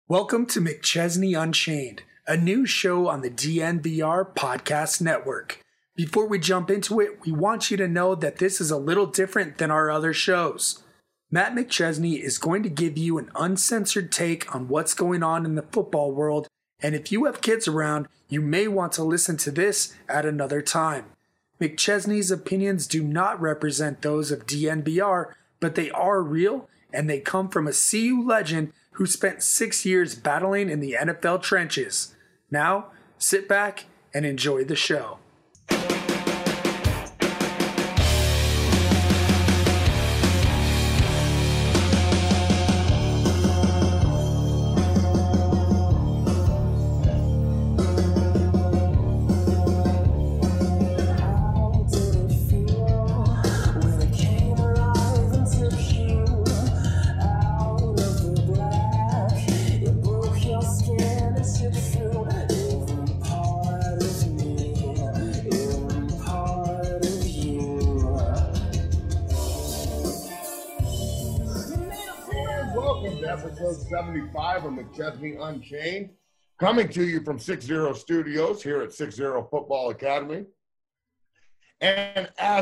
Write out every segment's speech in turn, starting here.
Welcome to McChesney Unchained, a new show on the DNVR Podcast Network. Before we jump into it, we want you to know that this is a little different than our other shows. Matt McChesney is going to give you an uncensored take on what's going on in the football world, and if you have kids around, you may want to listen to this at another time. McChesney's opinions do not represent those of DNVR, but they are real, and they come from a CU legend who spent 6 years battling in the NFL trenches. Now, sit back and enjoy the show. Episode 75 of McChesney Unchained, coming to you from 6-0 Studios here at 6-0 Football Academy. And as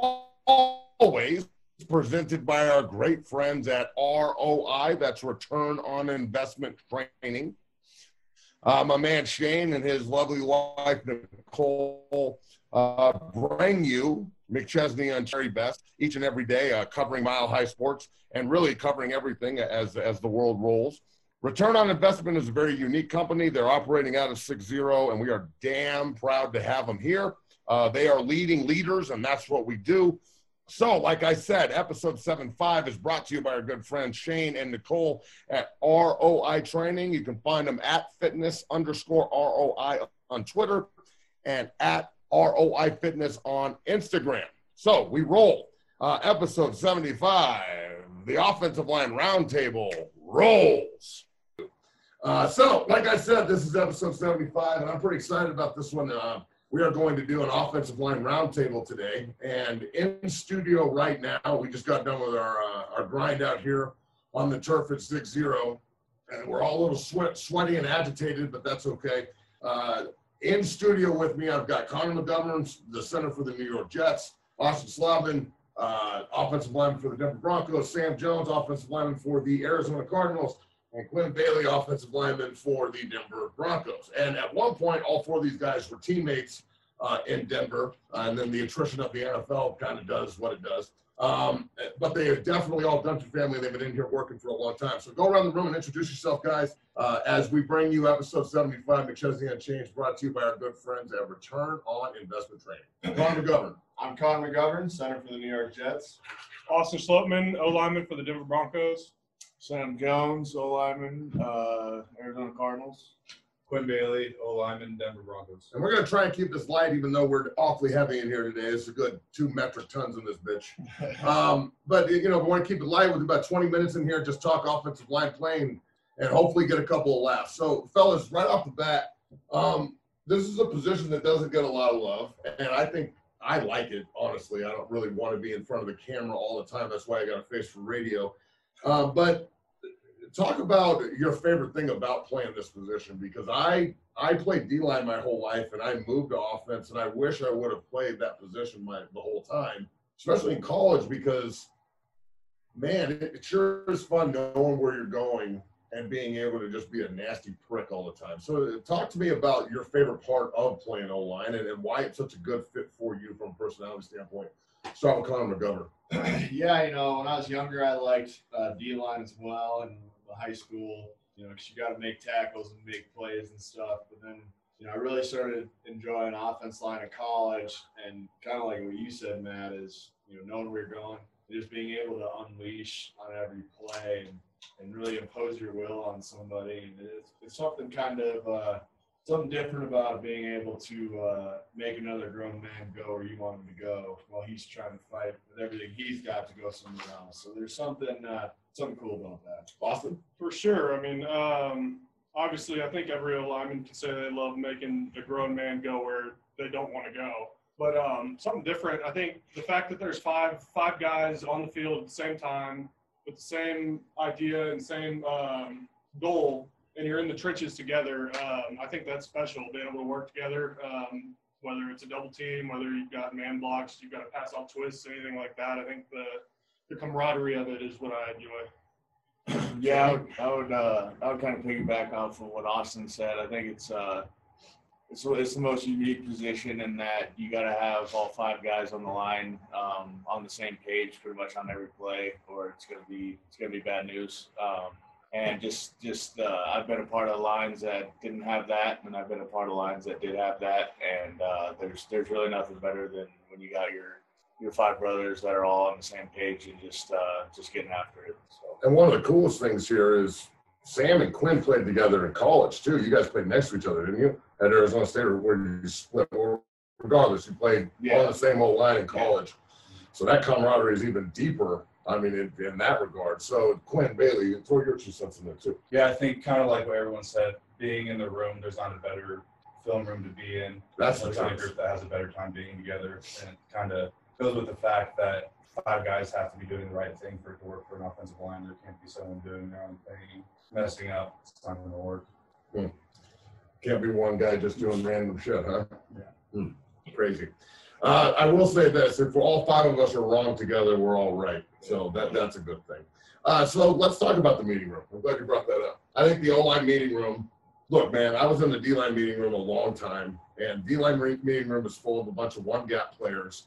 always, presented by our great friends at ROI, that's Return on Investment Training. My man Shane and his lovely wife Nicole bring you McChesney Unchained best each and every day, covering Mile High Sports and really covering everything as the world rolls. Return on Investment is a very unique company. They're operating out of 6-0, and we are damn proud to have them here. They are leading leaders, and that's what we do. So, like I said, episode 75 is brought to you by our good friends Shane and Nicole at ROI Training. You can find them at fitness_ROI on Twitter and at ROI Fitness on Instagram. So, we roll. Episode 75, the Offensive Line Roundtable rolls. So, like I said, this is episode 75, and I'm pretty excited about this one. We are going to do an Offensive Line Roundtable today, and in studio right now, we just got done with our grind out here on the turf at 6-0, and we're all a little sweaty and agitated, but that's okay. In studio with me, I've got Connor McGovern, the center for the New York Jets, Austin Slavin, offensive lineman for the Denver Broncos, Sam Jones, offensive lineman for the Arizona Cardinals, and Quinn Bailey, offensive lineman for the Denver Broncos. And at one point, all four of these guys were teammates in Denver, and then the attrition of the NFL kind of does what it does. But they are definitely all Dunter family. They've been in here working for a long time. So go around the room and introduce yourself, guys, as we bring you episode 75, McChesney Unchained, brought to you by our good friends at Return on Investment Training. Connor McGovern. I'm Connor McGovern, center for the New York Jets. Austin Slopeman, O-lineman for the Denver Broncos. Sam Jones, O-lineman, Arizona Cardinals. Quinn Bailey, O-lineman, Denver Broncos. And we're going to try and keep this light, even though we're awfully heavy in here today. It's a good 2 metric tons in this bitch. But, we want to keep it light with about 20 minutes in here, just talk offensive line playing and hopefully get a couple of laughs. So, fellas, right off the bat, this is a position that doesn't get a lot of love, and I think I like it, honestly. I don't really want to be in front of the camera all the time. That's why I got a face for radio. But talk about your favorite thing about playing this position, because I played D-line my whole life, and I moved to offense, and I wish I would have played that position the whole time, especially in college, because, man, it sure is fun knowing where you're going and being able to just be a nasty prick all the time. So talk to me about your favorite part of playing O-line and why it's such a good fit for you from a personality standpoint. Start with Connor McGovern. Yeah, when I was younger, I liked D-line as well in high school, because you got to make tackles and make plays and stuff. But then, I really started enjoying offense line in college, and kind of like what you said, Matt, is, knowing where you're going and just being able to unleash on every play and really impose your will on somebody. And it's something kind of something different about being able to make another grown man go where you want him to go while he's trying to fight with everything he's got to go somewhere else. So there's something cool about that. Austin? For sure. I mean, obviously, I think every lineman can say they love making a grown man go where they don't want to go. But something different, I think the fact that there's five guys on the field at the same time with the same idea and same goal and you're in the trenches together, I think that's special, being able to work together, whether it's a double team, whether you've got man blocks, you've got to pass off twists, anything like that. I think the camaraderie of it is what I enjoy. Yeah, I would kind of piggyback off of what Austin said. I think it's the most unique position in that you got to have all 5 guys on the line on the same page pretty much on every play, or it's gonna be bad news. And just I've been a part of lines that didn't have that, and I've been a part of lines that did have that. And there's really nothing better than when you got your 5 brothers that are all on the same page and just getting after it. So. And one of the coolest things here is Sam and Quinn played together in college too. You guys played next to each other, didn't you? At Arizona State, or where you split, or regardless, you played on the same old line in college. So that camaraderie is even deeper. I mean, in that regard. So Quinn Bailey, throw your 2 cents in there too. Yeah, I think kind of like what everyone said, being in the room, there's not a better film room to be in. That's There's not a group that has a better time being together, and it kind of goes with the fact that 5 guys have to be doing the right thing for it to work for an offensive line. There can't be someone doing their own thing, messing up. It's not going to work. Can't be one guy just doing random shit, huh? Yeah. Crazy. I will say this: if all 5 of us are wrong together, we're all right. So that's a good thing. So let's talk about the meeting room. I'm glad you brought that up. I think the O-line meeting room. Look, man, I was in the D-line meeting room a long time, and D-line meeting room is full of a bunch of one-gap players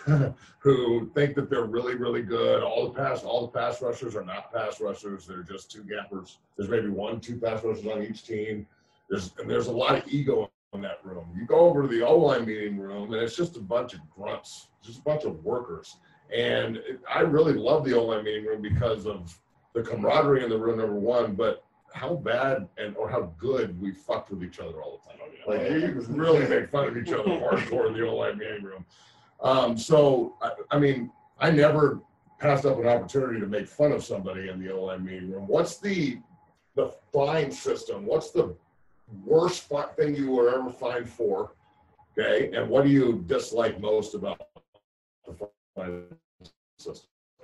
who think that they're really, really good. All the pass rushers are not pass rushers. They're just 2 gappers. There's maybe 1-2 pass rushers on each team. There's a lot of ego in that room. You go over to the O-line meeting room, and it's just a bunch of grunts, just a bunch of workers. And I really love the O-line meeting room because of the camaraderie in the room, number one, but how bad or how good we fucked with each other all the time. Like, you really make fun of each other hardcore in the O-line meeting room. So, I mean, I never passed up an opportunity to make fun of somebody in the O-line meeting room. What's the fine system? What's the worst thing you were ever fined for? Okay, and what do you dislike most about the fine system?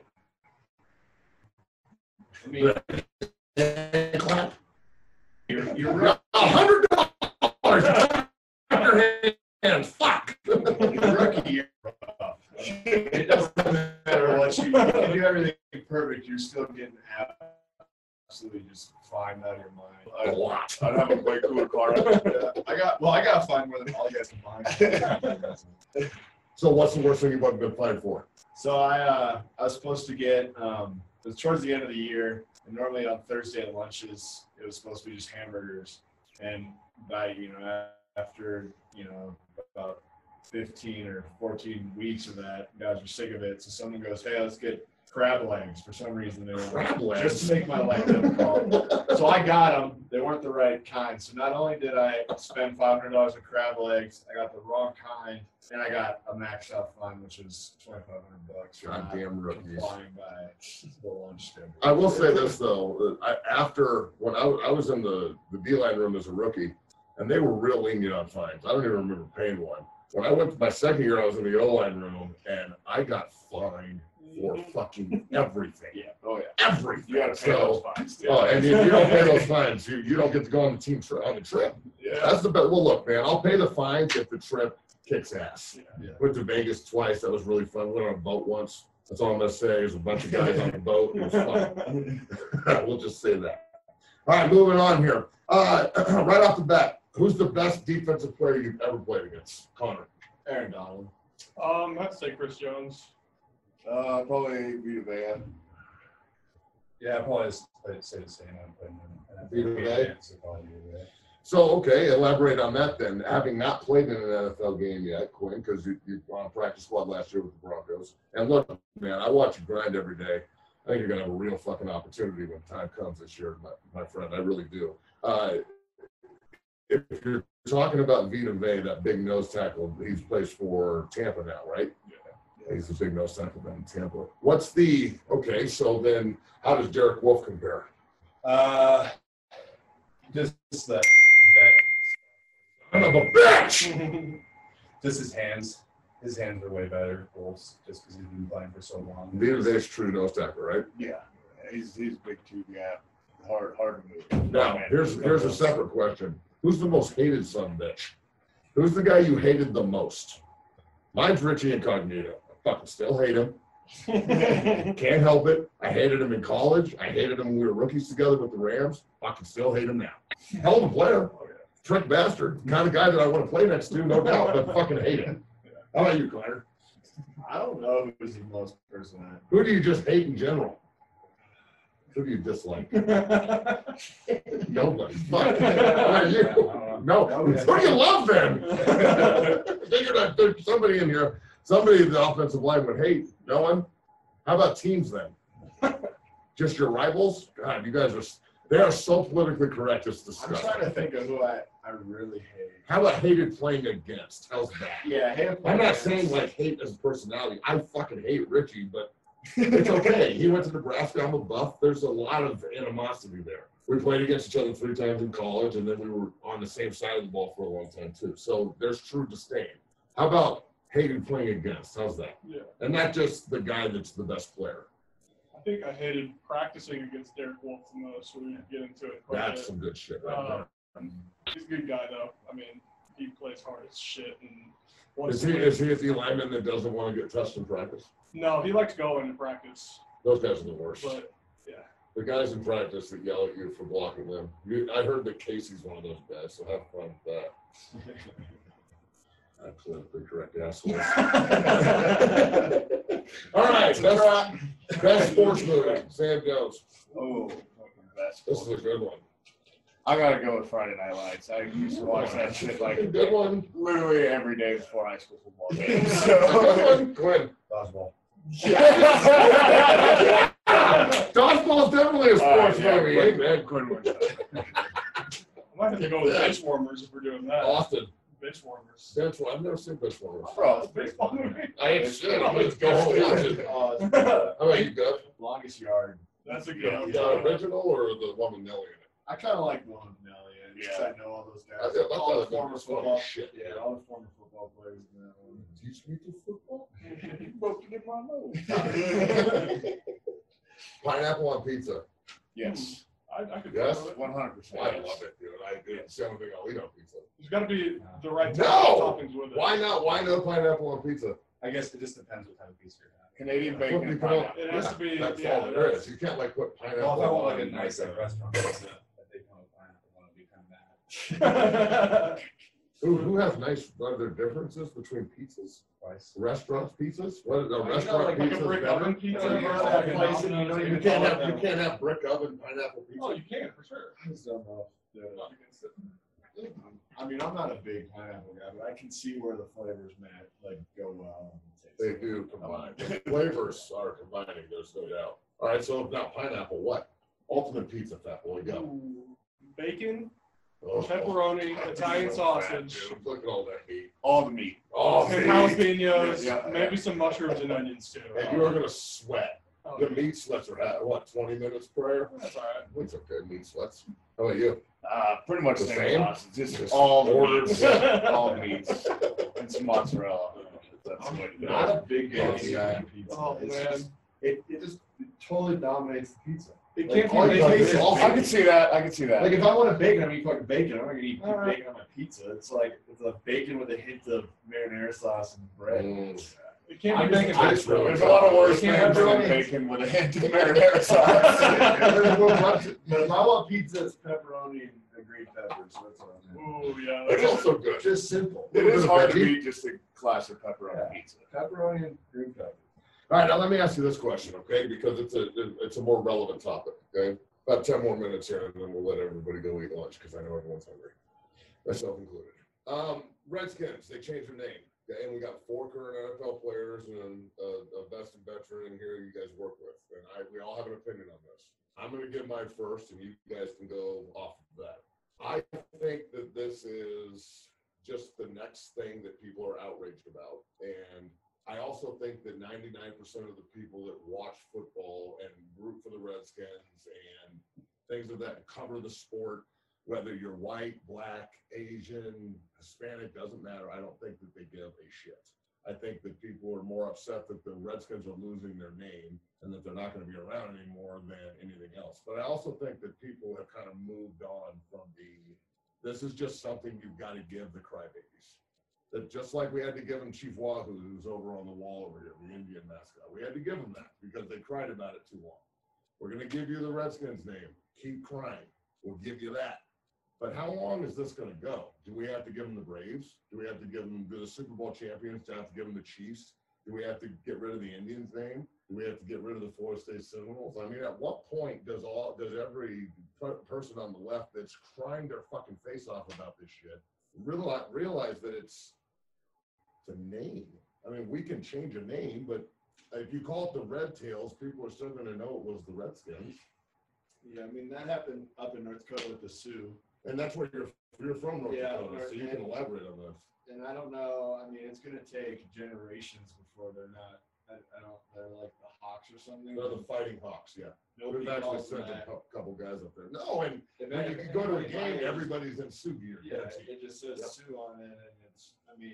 I mean, Clap. you're right. $100. Your hands. Fuck. Your rookie year. It doesn't matter what you do everything perfect, you're still getting absolutely just fined out of your mind. A lot. I'd have a way cooler car. I got fined more than all you guys combined. So what's the worst thing you've ever been fined for? So I was supposed to get it was towards the end of the year, and normally on Thursday at lunches it was supposed to be just hamburgers, and after about 15 or 14 weeks of that, guys were sick of it. So someone goes, "Hey, let's get crab legs." For some reason, they were Crab legs? just to make my life difficult. So I got them. They weren't the right kind. So not only did I spend $500 on crab legs, I got the wrong kind, and I got a maxed out fine, which was $2,500 for Goddamn rookies. complying by the lunch schedule. I will say this though, when I was in the D-line room as a rookie, and they were real lenient on fines. I don't even remember paying one. When I went to my second year, I was in the O-line room, and I got fined for fucking everything. Yeah. Oh yeah. Everything. You got to pay those fines. Yeah. Oh, and if you don't pay those fines, you don't get to go on the team on the trip. Yeah. That's the best. Well, look, man, I'll pay the fines if the trip kicks ass. Yeah. Went to Vegas twice. That was really fun. Went on a boat once. That's all I'm gonna say. There's a bunch of guys on the boat. It was fun. We'll just say that. All right, moving on here. Right off the bat, who's the best defensive player you've ever played against? Connor. Aaron Donald. I'd say Chris Jones. Probably Vita Vea. Yeah, I probably say the same. Vita Vea? So, okay, elaborate on that then. Having not played in an NFL game yet, Quinn, because you were on practice squad last year with the Broncos. And look, man, I watch you grind every day. I think you're going to have a real fucking opportunity when time comes this year, my friend. I really do. If you're talking about Vita Vea, that big nose tackle, he plays for Tampa now, right? Yeah. He's a big nose tackle down in Tampa. Okay, so then how does Derek Wolfe compare? Just that Son of a bitch! just his hands. His hands are way better, Wolf's, just because he's been playing for so long. Vita Vea's true nose tackle, right? Yeah. He's a big two gap. hard to move. Now, here's a separate question. Who's the most hated son of a bitch? Who's the guy you hated the most? Mine's Richie Incognito. I fucking still hate him. Can't help it. I hated him in college. I hated him when we were rookies together with the Rams. Fucking still hate him now. Hell of a player. Trick bastard. Kind of guy that I want to play next to, no doubt, but fucking hate him. How about you, Connor? I don't know who's the most person Who do you just hate in general? Who do you dislike? Nobody. Fuck. No. Who do you love then? I figured I'd there's somebody in here, somebody in the offensive line would hate. No one? How about teams then? Just your rivals? God, you guys they are so politically correct. It's disgusting. I'm trying to think of who I really hate. How about hated playing against? How's that? Yeah, I'm not saying like hate as a personality. I fucking hate Richie, but it's okay. He went to Nebraska. I'm a Buff. There's a lot of animosity there. We played against each other 3 times in college, and then we were on the same side of the ball for a long time too. So there's true disdain. How about hated playing against? How's that? Yeah. And not just the guy that's the best player. I think I hated practicing against Derek Wolf the most. We get into it quite a That's bit. some good shit right there. He's a good guy, though. I mean, he plays hard as shit. And Is he the lineman that doesn't want to get touched in practice? No, he likes going to practice. Those guys are the worst. But, yeah. The guys in practice that yell at you for blocking them. I heard that Casey's one of those guys, so have fun with that. That's politically correct, assholes. All right, best sports movie, Sam Jones. Oh, best. This is a good one. I gotta go with Friday Night Lights. I used to watch that shit like Good one. literally every day before high school football games. Good one. Quinn. Dodgeball. Dodgeball is definitely a sports movie. Quinn, Amen. Quinn wins that. I might have to go with bench warmers if we're doing that. Austin. Bench warmers. That's what I've never seen this one. Bro, it's Baseball movie. I ain't shit. I'm going to go home and watch it. How about you, Gus? Longest yard. That's a good one. The original or the one with Nelly in it? I kind of like the one with Nelly in it, 'cause I know all those guys. I thought all the that former was funny football. shit. Yeah, all the former football players in that one. Teach me to football. Broken in my nose. Pineapple on pizza. Yes, I could Yes? do it. 100%. I love it, dude. It's the only thing I'll eat on pizza. There's got to be the right type No! of toppings with it. Why not? Why no pineapple on pizza? I guess it just depends what type of pizza you're having. Canadian What bacon do you and put on? pineapple. It has to be, That's yeah, all there is. You can't like put pineapple Well, if I want on like a nice like restaurant pizza that they come with pineapple, I want to be kind of mad. Who has nice? Are there differences between pizzas? Twice. Restaurants pizzas? What a Like restaurant a pizza brick is better? oven pizza. Yeah, or like a place, Domino's, and You you can't have brick oven pineapple pizza. Oh, you can for sure. I just don't know. I'm not against it. I mean, I'm not a big pineapple guy, but I can see where the flavors go well. and taste They good. do combine. Flavors are combining. There's no doubt. All right, so now pineapple. What? Ultimate pizza fat boy. Go. Ooh, bacon, Oh, pepperoni, Italian so sausage, fat, dude. Look at all that meat. All the meat. Oh, and meat. jalapenos, Yeah. maybe some mushrooms and onions too. And you are gonna sweat. Oh, The meat sweats are at what? 20 minutes prior. that's all right. It's okay. Meat sweats. How about you? Pretty much The the same? same. Sauce. Just Just all the ordered. meats. All the meats. And some mozzarella. That's I'm what it not is. a big Fancy guy guy. on pizza. Oh, It's man. just, it totally dominates the pizza. It Like, can't all be you bacon. taste is I can see that. I can see that. Like if I want a bacon, I'm eating fucking bacon. I'm not gonna eat All right. bacon on my pizza. It's like it's a bacon with a hint of marinara sauce and bread. Mm. It can't I'm be bacon. just- There's a lot of worse You things can't have than pepperoni. bacon with a hint of marinara sauce. But if I want pizza, it's pepperoni and green peppers. So that's what I'm Ooh, yeah. It's That's also good. It's just simple. It is hard to beat just a classic pepperoni Yeah. pizza. Pepperoni and green peppers. All right, now let me ask you this question, okay? Because it's a more relevant topic, okay? About 10 more minutes here, and then we'll let everybody go eat lunch because I know everyone's hungry, myself included. Redskins, they changed their name, okay? And we got 4 current NFL players and a vested veteran in here you guys work with, and we all have an opinion on this. I'm going to give mine first, and you guys can go off of that. I think that this is just the next thing that people are outraged about, and I also think that 99% of the people that watch football and root for the Redskins and things of that cover the sport, whether you're white, black, Asian, Hispanic, doesn't matter. I don't think that they give a shit. I think that people are more upset that the Redskins are losing their name and that they're not going to be around anymore than anything else. But I also think that people have kind of moved on from this is just something you've got to give the crybabies. That just like we had to give them Chief Wahoo, who's over on the wall over here, the Indian mascot. We had to give them that because they cried about it too long. We're going to give you the Redskins name. Keep crying. We'll give you that. But how long is this going to go? Do we have to give them the Braves? Do we have to give them the Super Bowl champions? Do we have to give them the Chiefs? Do we have to get rid of the Indians name? Do we have to get rid of the Florida State Seminoles? I mean, at what point does every person on the left that's crying their fucking face off about this shit realize that it's a name? I mean, we can change a name, but if you call it the Red Tails, people are still going to know it was the Redskins. Yeah, I mean, that happened up in North Dakota with the Sioux. And that's where you're from, North Dakota, so you can elaborate on this. And I don't know. I mean, it's going to take generations before they're not. They're like the Hawks or something. They're the Fighting Hawks, yeah. Nobody We've actually calls sent a that. couple guys up there. No, and when you go to a game, everybody's in Sioux gear. Yeah, it just says Sioux on it, and it's.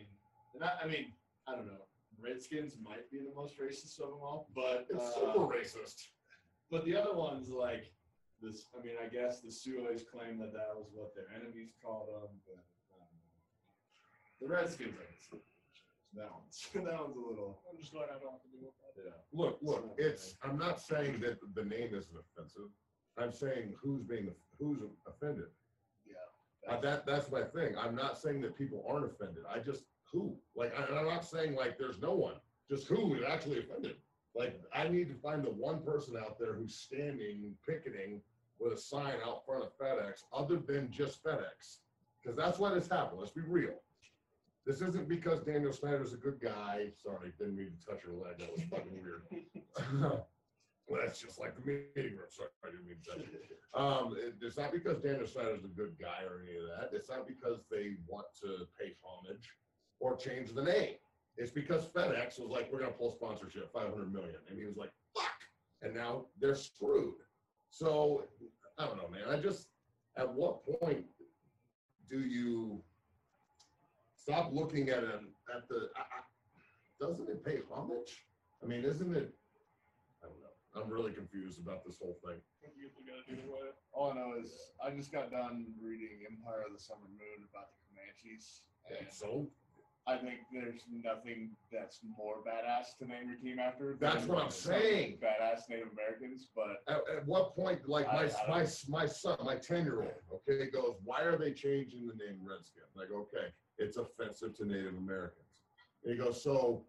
I don't know. Redskins might be the most racist of them all, but It's super racist. But the other ones like this. I mean, I guess the Sioux always claim that was what their enemies called them, but the Redskins are. That one's a little. I'm just glad I don't have to deal with that. Yeah. Look, I'm not saying that the name isn't offensive. I'm saying who's offended. Yeah. That's my thing. I'm not saying that people aren't offended. I just who? Like, I'm not saying like there's no one. Just who is actually offended. Like, I need to find the one person out there who's standing, picketing with a sign out front of FedEx, other than just FedEx, because that's why this happened. Let's be real. This isn't because Daniel Snyder's a good guy. Sorry, didn't mean to touch her leg. That was fucking weird. Well, that's just like the meeting room. Sorry, I didn't mean to touch it. It's not because Daniel Snyder's a good guy or any of that. It's not because they want to pay homage or change the name. It's because FedEx was like, we're going to pull sponsorship, $500 million. And he was like, fuck. And now they're screwed. So, I don't know, man. At what point do you stop looking at doesn't it pay homage? I mean, isn't it? I don't know. I'm really confused about this whole thing. All I know is I just got done reading Empire of the Summer Moon about the Comanches. And so I think there's nothing that's more badass to name your team after. That's what I'm saying. Badass Native Americans, but at what point, like my son, my 10-year-old, okay, goes, why are they changing the name Redskin? Like, okay, it's offensive to Native Americans. And he goes, so,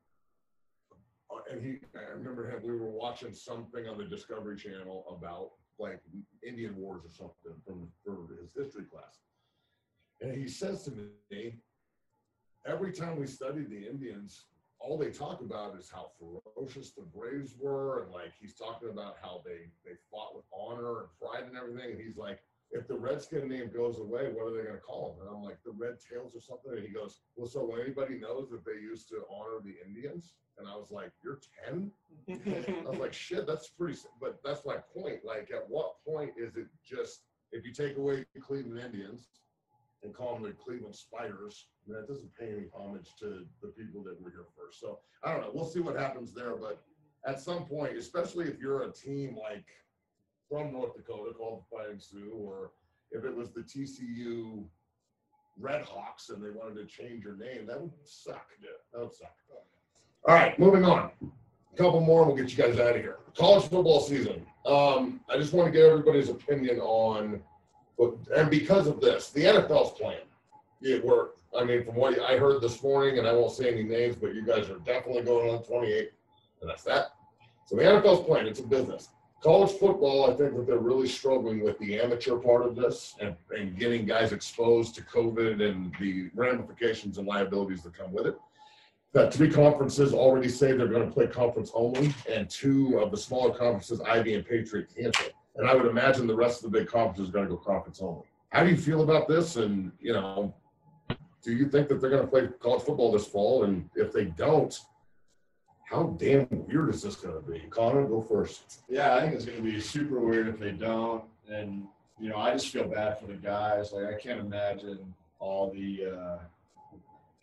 and I remember him, we were watching something on the Discovery Channel about like Indian Wars or something for his history class. And he says to me, every time we study the Indians, all they talk about is how ferocious the Braves were. And like, he's talking about how they fought with honor and pride and everything. And he's like, if the Redskin name goes away, what are they going to call them? And I'm like, the Red Tails or something. And he goes, well, so anybody knows that they used to honor the Indians? And I was like, you're 10? I was like, shit, that's pretty, but that's my point. Like, at what point is it just, if you take away the Cleveland Indians and call them the Cleveland Spiders, that doesn't pay any homage to the people that were here first. So I don't know. We'll see what happens there. But at some point, especially if you're a team like from North Dakota called the Fighting Sioux, or if it was the TCU Red Hawks and they wanted to change your name, that would suck. Yeah, that would suck. All right, moving on. A couple more and we'll get you guys out of here. College football season. I just want to get everybody's opinion on, and because of this, the NFL's playing. I mean, from what I heard this morning, and I won't say any names, but you guys are definitely going on 28, and that's that. So the NFL's playing. It's a business. College football, I think that they're really struggling with the amateur part of this and getting guys exposed to COVID and the ramifications and liabilities that come with it. That 3 conferences already say they're going to play conference only, and 2 of the smaller conferences, Ivy and Patriot, cancel. And I would imagine the rest of the big conferences are going to go conference only. How do you feel about this? And, do you think that they're going to play college football this fall? And if they don't, how damn weird is this going to be? Connor, go first. Yeah, I think it's going to be super weird if they don't. And, I just feel bad for the guys. Like, I can't imagine all the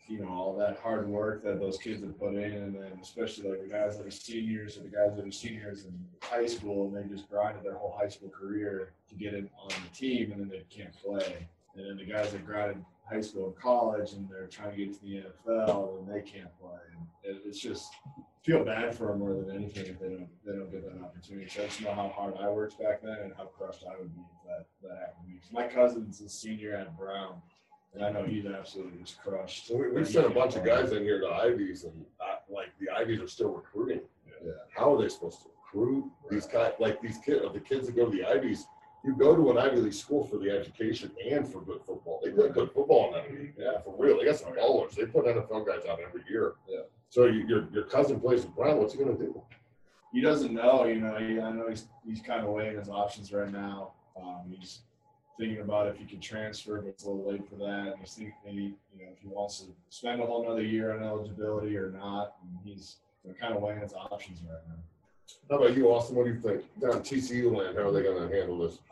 all that hard work that those kids have put in, and then especially like the guys that are seniors or the guys that are seniors in high school, and they just grinded their whole high school career to get in on the team, and then they can't play. And then the guys that grinded high school and college, and they're trying to get to the NFL, and they can't play. And it's just feel bad for them more than anything if they don't get that opportunity. So I just know how hard I worked back then and how crushed I would be if that happened to me. My cousin's a senior at Brown. And I know he's absolutely just crushed. So we've sent a bunch of guys in here to Ivies, and the Ivies are still recruiting. Yeah. How are they supposed to recruit these guys? Like these kids, the kids that go to the Ivies, you go to an Ivy League school for the education and for good football. They play good football in that league. Yeah, for real. They got some ballers. They put NFL guys out every year. Yeah. So your cousin plays with Brown. What's he gonna do? He doesn't know. I know he's kind of weighing his options right now. He's thinking about if he could transfer, but it's a little late for that. And he's thinking if he wants to spend a whole another year on eligibility or not. And he's kind of weighing his options right now. How about you, Austin? What do you think? Down TCU land, how are they going to handle this?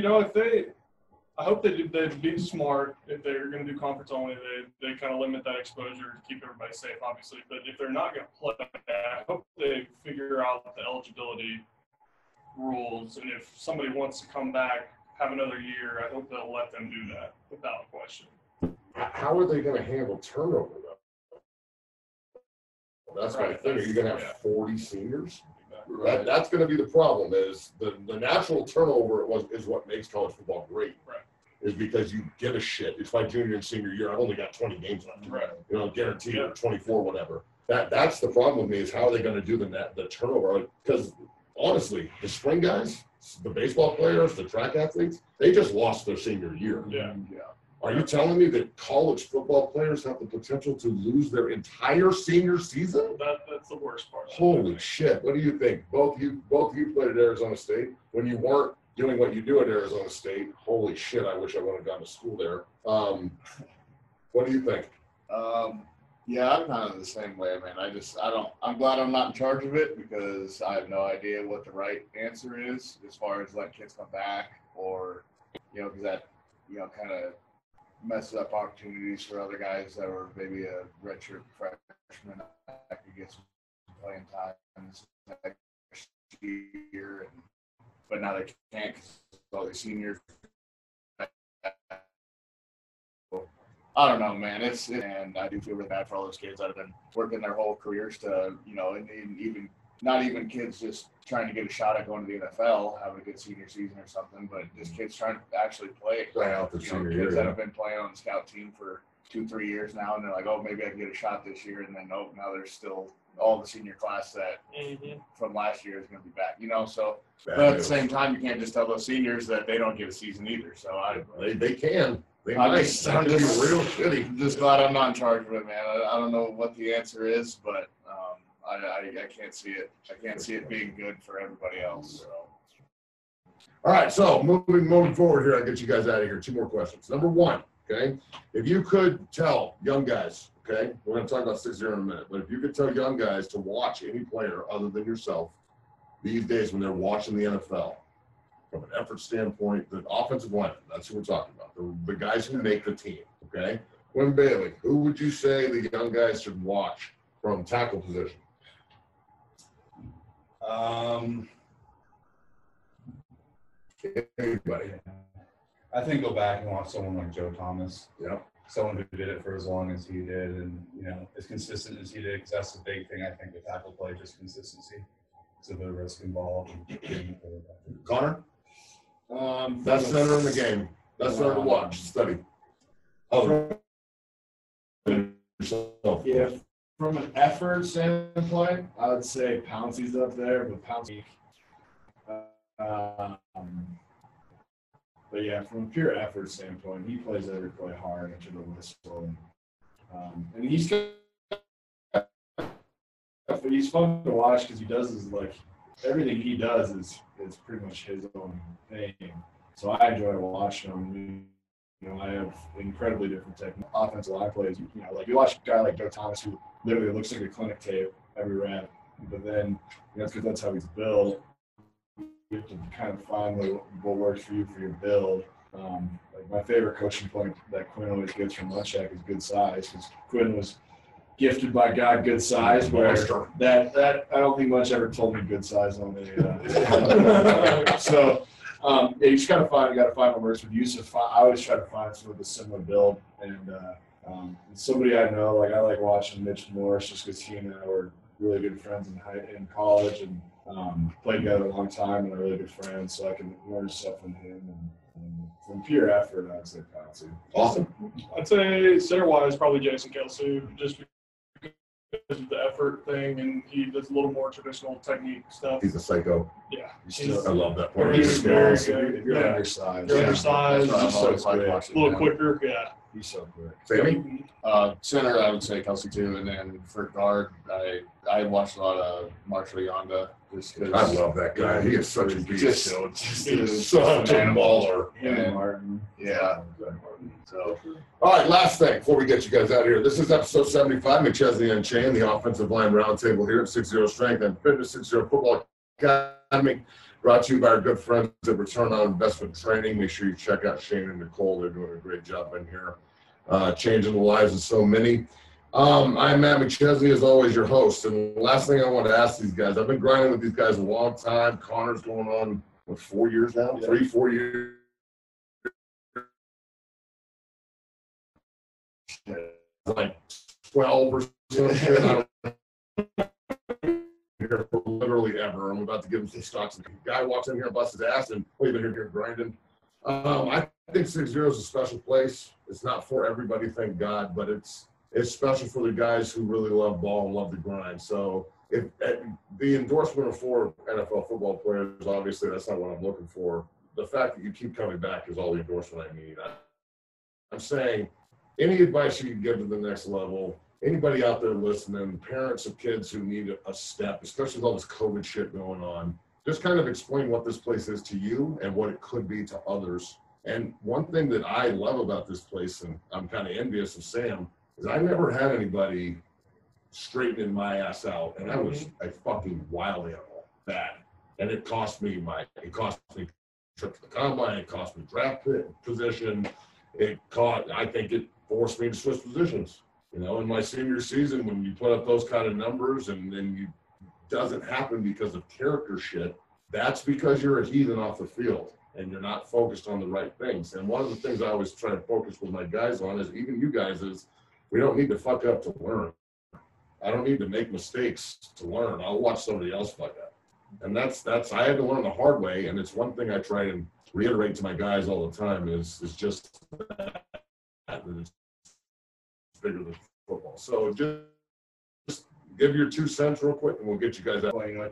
I hope they'd be smart. If they're going to do conference only, they kind of limit that exposure to keep everybody safe, obviously. But if they're not going to play, I hope they figure out the eligibility rules. And if somebody wants to come back, have another year, I hope they'll let them do that without question. How are they going to handle turnover, though? That's my thing. Are you going to have 40 seniors? Right. That's going to be the problem. Is the natural turnover is what makes college football great. Right. Is because you give a shit. It's my junior and senior year. I've only got 20 games left. Right. Guaranteed, or 24, whatever. That's the problem with me, is how are they going to do the turnover? Because honestly, the spring guys, the baseball players, the track athletes, they just lost their senior year. Yeah. Are you telling me that college football players have the potential to lose their entire senior season? That's the worst part. Holy shit. What do you think? Both you played at Arizona State. When you weren't doing what you do at Arizona State, holy shit, I wish I would have gone to school there. What do you think? Yeah, I'm kind of the same way, man. I'm glad I'm not in charge of it, because I have no idea what the right answer is as far as letting kids come back, or, because that, kind of messes up opportunities for other guys that were maybe a redshirt freshman that could get some playing time next year, but now they can't because all these seniors. I don't know, man. And I do feel really bad for all those kids that have been working their whole careers to, and even not even kids just trying to get a shot at going to the NFL, having a good senior season or something, but just kids trying to actually play. Out the senior year, kids that have been playing on the scout team for 2-3 years now, and they're like, oh, maybe I can get a shot this year, and then now there's still all the senior class that from last year is going to be back. So but at the same time, you can't just tell those seniors that they don't get a season either. So they can. I'm just real shitty. I'm just glad I'm not in charge of it, man. I don't know what the answer is, but I can't see it. I can't see it being good for everybody else. So. All right, so moving forward here, I'll get you guys out of here. 2 more questions. Number 1, okay? If you could tell young guys, okay, we're going to talk about 6-0 in a minute, but if you could tell young guys to watch any player other than yourself these days when they're watching the NFL, from an effort standpoint, the offensive line, that's who we're talking about, the guys who make the team, okay? Quinn Bailey, who would you say the young guys should watch from tackle position? Anybody. I think go back and watch someone like Joe Thomas. Yep. Someone who did it for as long as he did, and as consistent as he did, because that's the big thing I think with tackle play, just consistency. It's a bit of risk involved. Connor? Best center in the game. Best center to watch. Study. Yeah, from an effort standpoint, I would say Pouncey's up there, but Pouncey. But yeah, from a pure effort standpoint, he plays every play hard and to the whistle. And he's fun to watch because he does everything he does is pretty much his own thing. So I enjoy watching him. I have incredibly different technique. Offensive line plays, you watch a guy like Joe Thomas who literally looks like a clinic tape every rep, but then that's because that's how he's built. You have to kind of find what works for you for your build. Like my favorite coaching point that Quinn always gets from Munchak is good size, because Quinn was gifted by God good size. Where that I don't think Munch ever told me good size on the. So yeah, you just gotta find what works with Yusuf. I always try to find someone with a similar build, and somebody I know. Like I like watching Mitch Morris just because he and I were really good friends in college and played together a long time and are really good friends. So I can learn stuff from him and from pure effort. I'd say Patsy. Awesome. I'd say center-wise, probably Jason Kelsey, just because of the effort thing, and he does a little more traditional technique stuff. He's a psycho. Yeah. I love that part. He's very scary. good. If you're Yeah. undersized. You're undersized. That's He's what I've always so liked quick. watching A little him. quicker, yeah. He's so quick. Sammy? Center, I would say Kelsey too, and then for guard, I watched a lot of Marshall Yonda just because I love that guy. He is such a beast. just He's such a baller. And, Martin. yeah. So All right, last thing before we get you guys out of here. This is episode 75, McChesney Unchained, the offensive line roundtable here at 60 Strength and Fitness 60 Football Academy. Brought to you by our good friends at Return on Investment Training. Make sure you check out Shane and Nicole. They're doing a great job in here, changing the lives of so many. I'm Matt McChesney, as always, your host. And the last thing I want to ask these guys, I've been grinding with these guys a long time. Connor's going on, 4 years now? Yeah. 3-4 years. Like 12 or something. I don't here for literally ever. I'm about to give him some stocks. The guy walks in here and busts his ass, and we've been here grinding. I think 60 is a special place. It's not for everybody, thank God, but it's special for the guys who really love ball and love the grind. So if the endorsement of 4 NFL football players, obviously that's not what I'm looking for. The fact that you keep coming back is all the endorsement I need. I'm saying any advice you can give to the next level, anybody out there listening, parents of kids who need a step, especially with all this COVID shit going on, just kind of explain what this place is to you and what it could be to others. And one thing that I love about this place, and I'm kind of envious of Sam, is I never had anybody straightening my ass out, and I was a fucking wild animal, bad. And it cost me trip to the combine, it cost me draft position, I think it forced me to switch positions. You know, in my senior season, when you put up those kind of numbers and then you doesn't happen because of character shit, that's because you're a heathen off the field and you're not focused on the right things. And one of the things I always try to focus with my guys on is, even you guys, is we don't need to fuck up to learn. I don't need to make mistakes to learn. I'll watch somebody else fuck up. And that's I had to learn the hard way, and it's one thing I try and reiterate to my guys all the time is just that it's bigger than football. So just give your 2 cents real quick, and we'll get you guys out. Well, you know,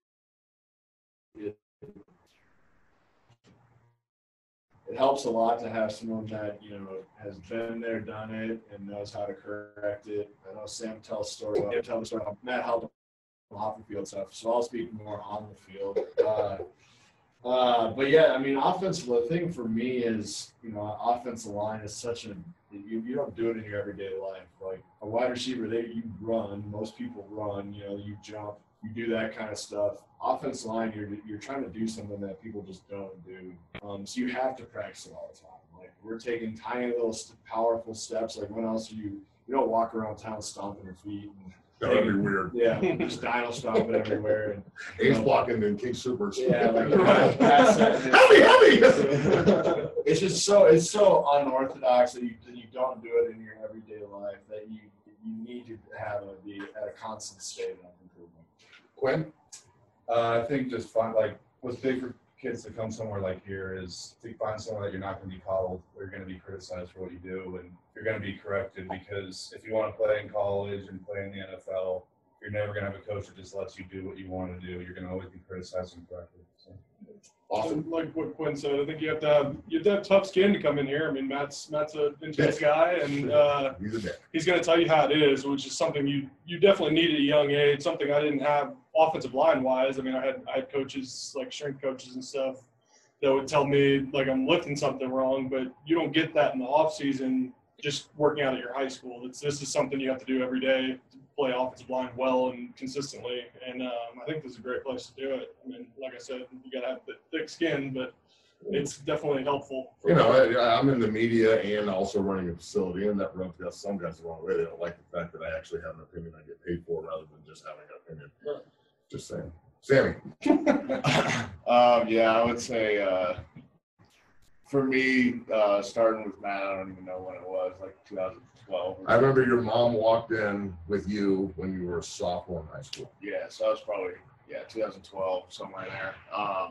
it helps a lot to have someone that, you know, has been there, done it, and knows how to correct it. I know Sam tells stories. Tell the story. Matt helped off the field stuff, so I'll speak more on the field. But yeah, I mean, the thing for me is, you know, offensive line is such you don't do it in your everyday life. Like a wide receiver, you run. Most people run. You know, you jump. You do that kind of stuff. Offensive line, you're trying to do something that people just don't do. So you have to practice it all the time. Like we're taking tiny little powerful steps. Like when else you don't walk around town stomping your feet. That would be weird. Yeah, just dino stomping everywhere. And, Ace blocking in King Supers. yeah, like heavy. It's just so unorthodox that you don't do it in your everyday life, that you need to be at a constant state of improvement. Quinn? I think just what's big for kids to come somewhere like here is to find somewhere that you're not going to be coddled, or you're going to be criticized for what you do, and you're going to be corrected, because if you want to play in college and play in the NFL, you're never going to have a coach that just lets you do what you want to do. You're going to always be criticized and corrected. So. Awesome. Like what Quinn said, I think you have to have tough skin to come in here. I mean, Matt's an intense guy, and he's going to tell you how it is, which is something you definitely need at a young age. Something I didn't have offensive line wise. I mean, I had coaches, like strength coaches and stuff, that would tell me like I'm lifting something wrong, but you don't get that in the off season just working out at your high school. This is something you have to do every day to play offensive line well and consistently. And I think this is a great place to do it. I mean, like I said, you got to have thick skin, but it's definitely helpful. You know, I'm in the media and also running a facility, and that rubs some guys the wrong way. They don't like the fact that I actually have an opinion I get paid for rather than just having an opinion. Just saying. Sammy. Yeah, I would say for me, starting with Matt, I don't even know when it was, like 2012. I remember your mom walked in with you when you were a sophomore in high school. Yeah, so I was probably 2012, somewhere in there.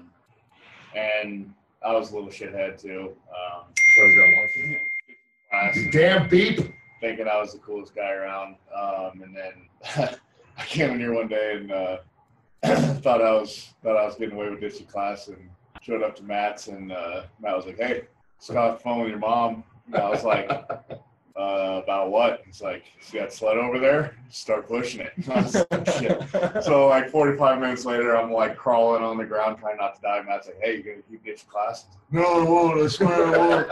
And I was a little shithead too. So you got one thing. You damn beep. Thinking I was the coolest guy around. And then I came in here one day and thought I was getting away with this in class, and showed up to Matt's, and Matt was like, "Hey, just got off the phone with your mom." And I was like, "About what?" He's like, "See that sled over there? Start pushing it." I was like, shit. So like 45 minutes later, I'm like crawling on the ground trying not to die. Matt's like, "Hey, you gonna keep getting class?" No, I won't. I swear I won't.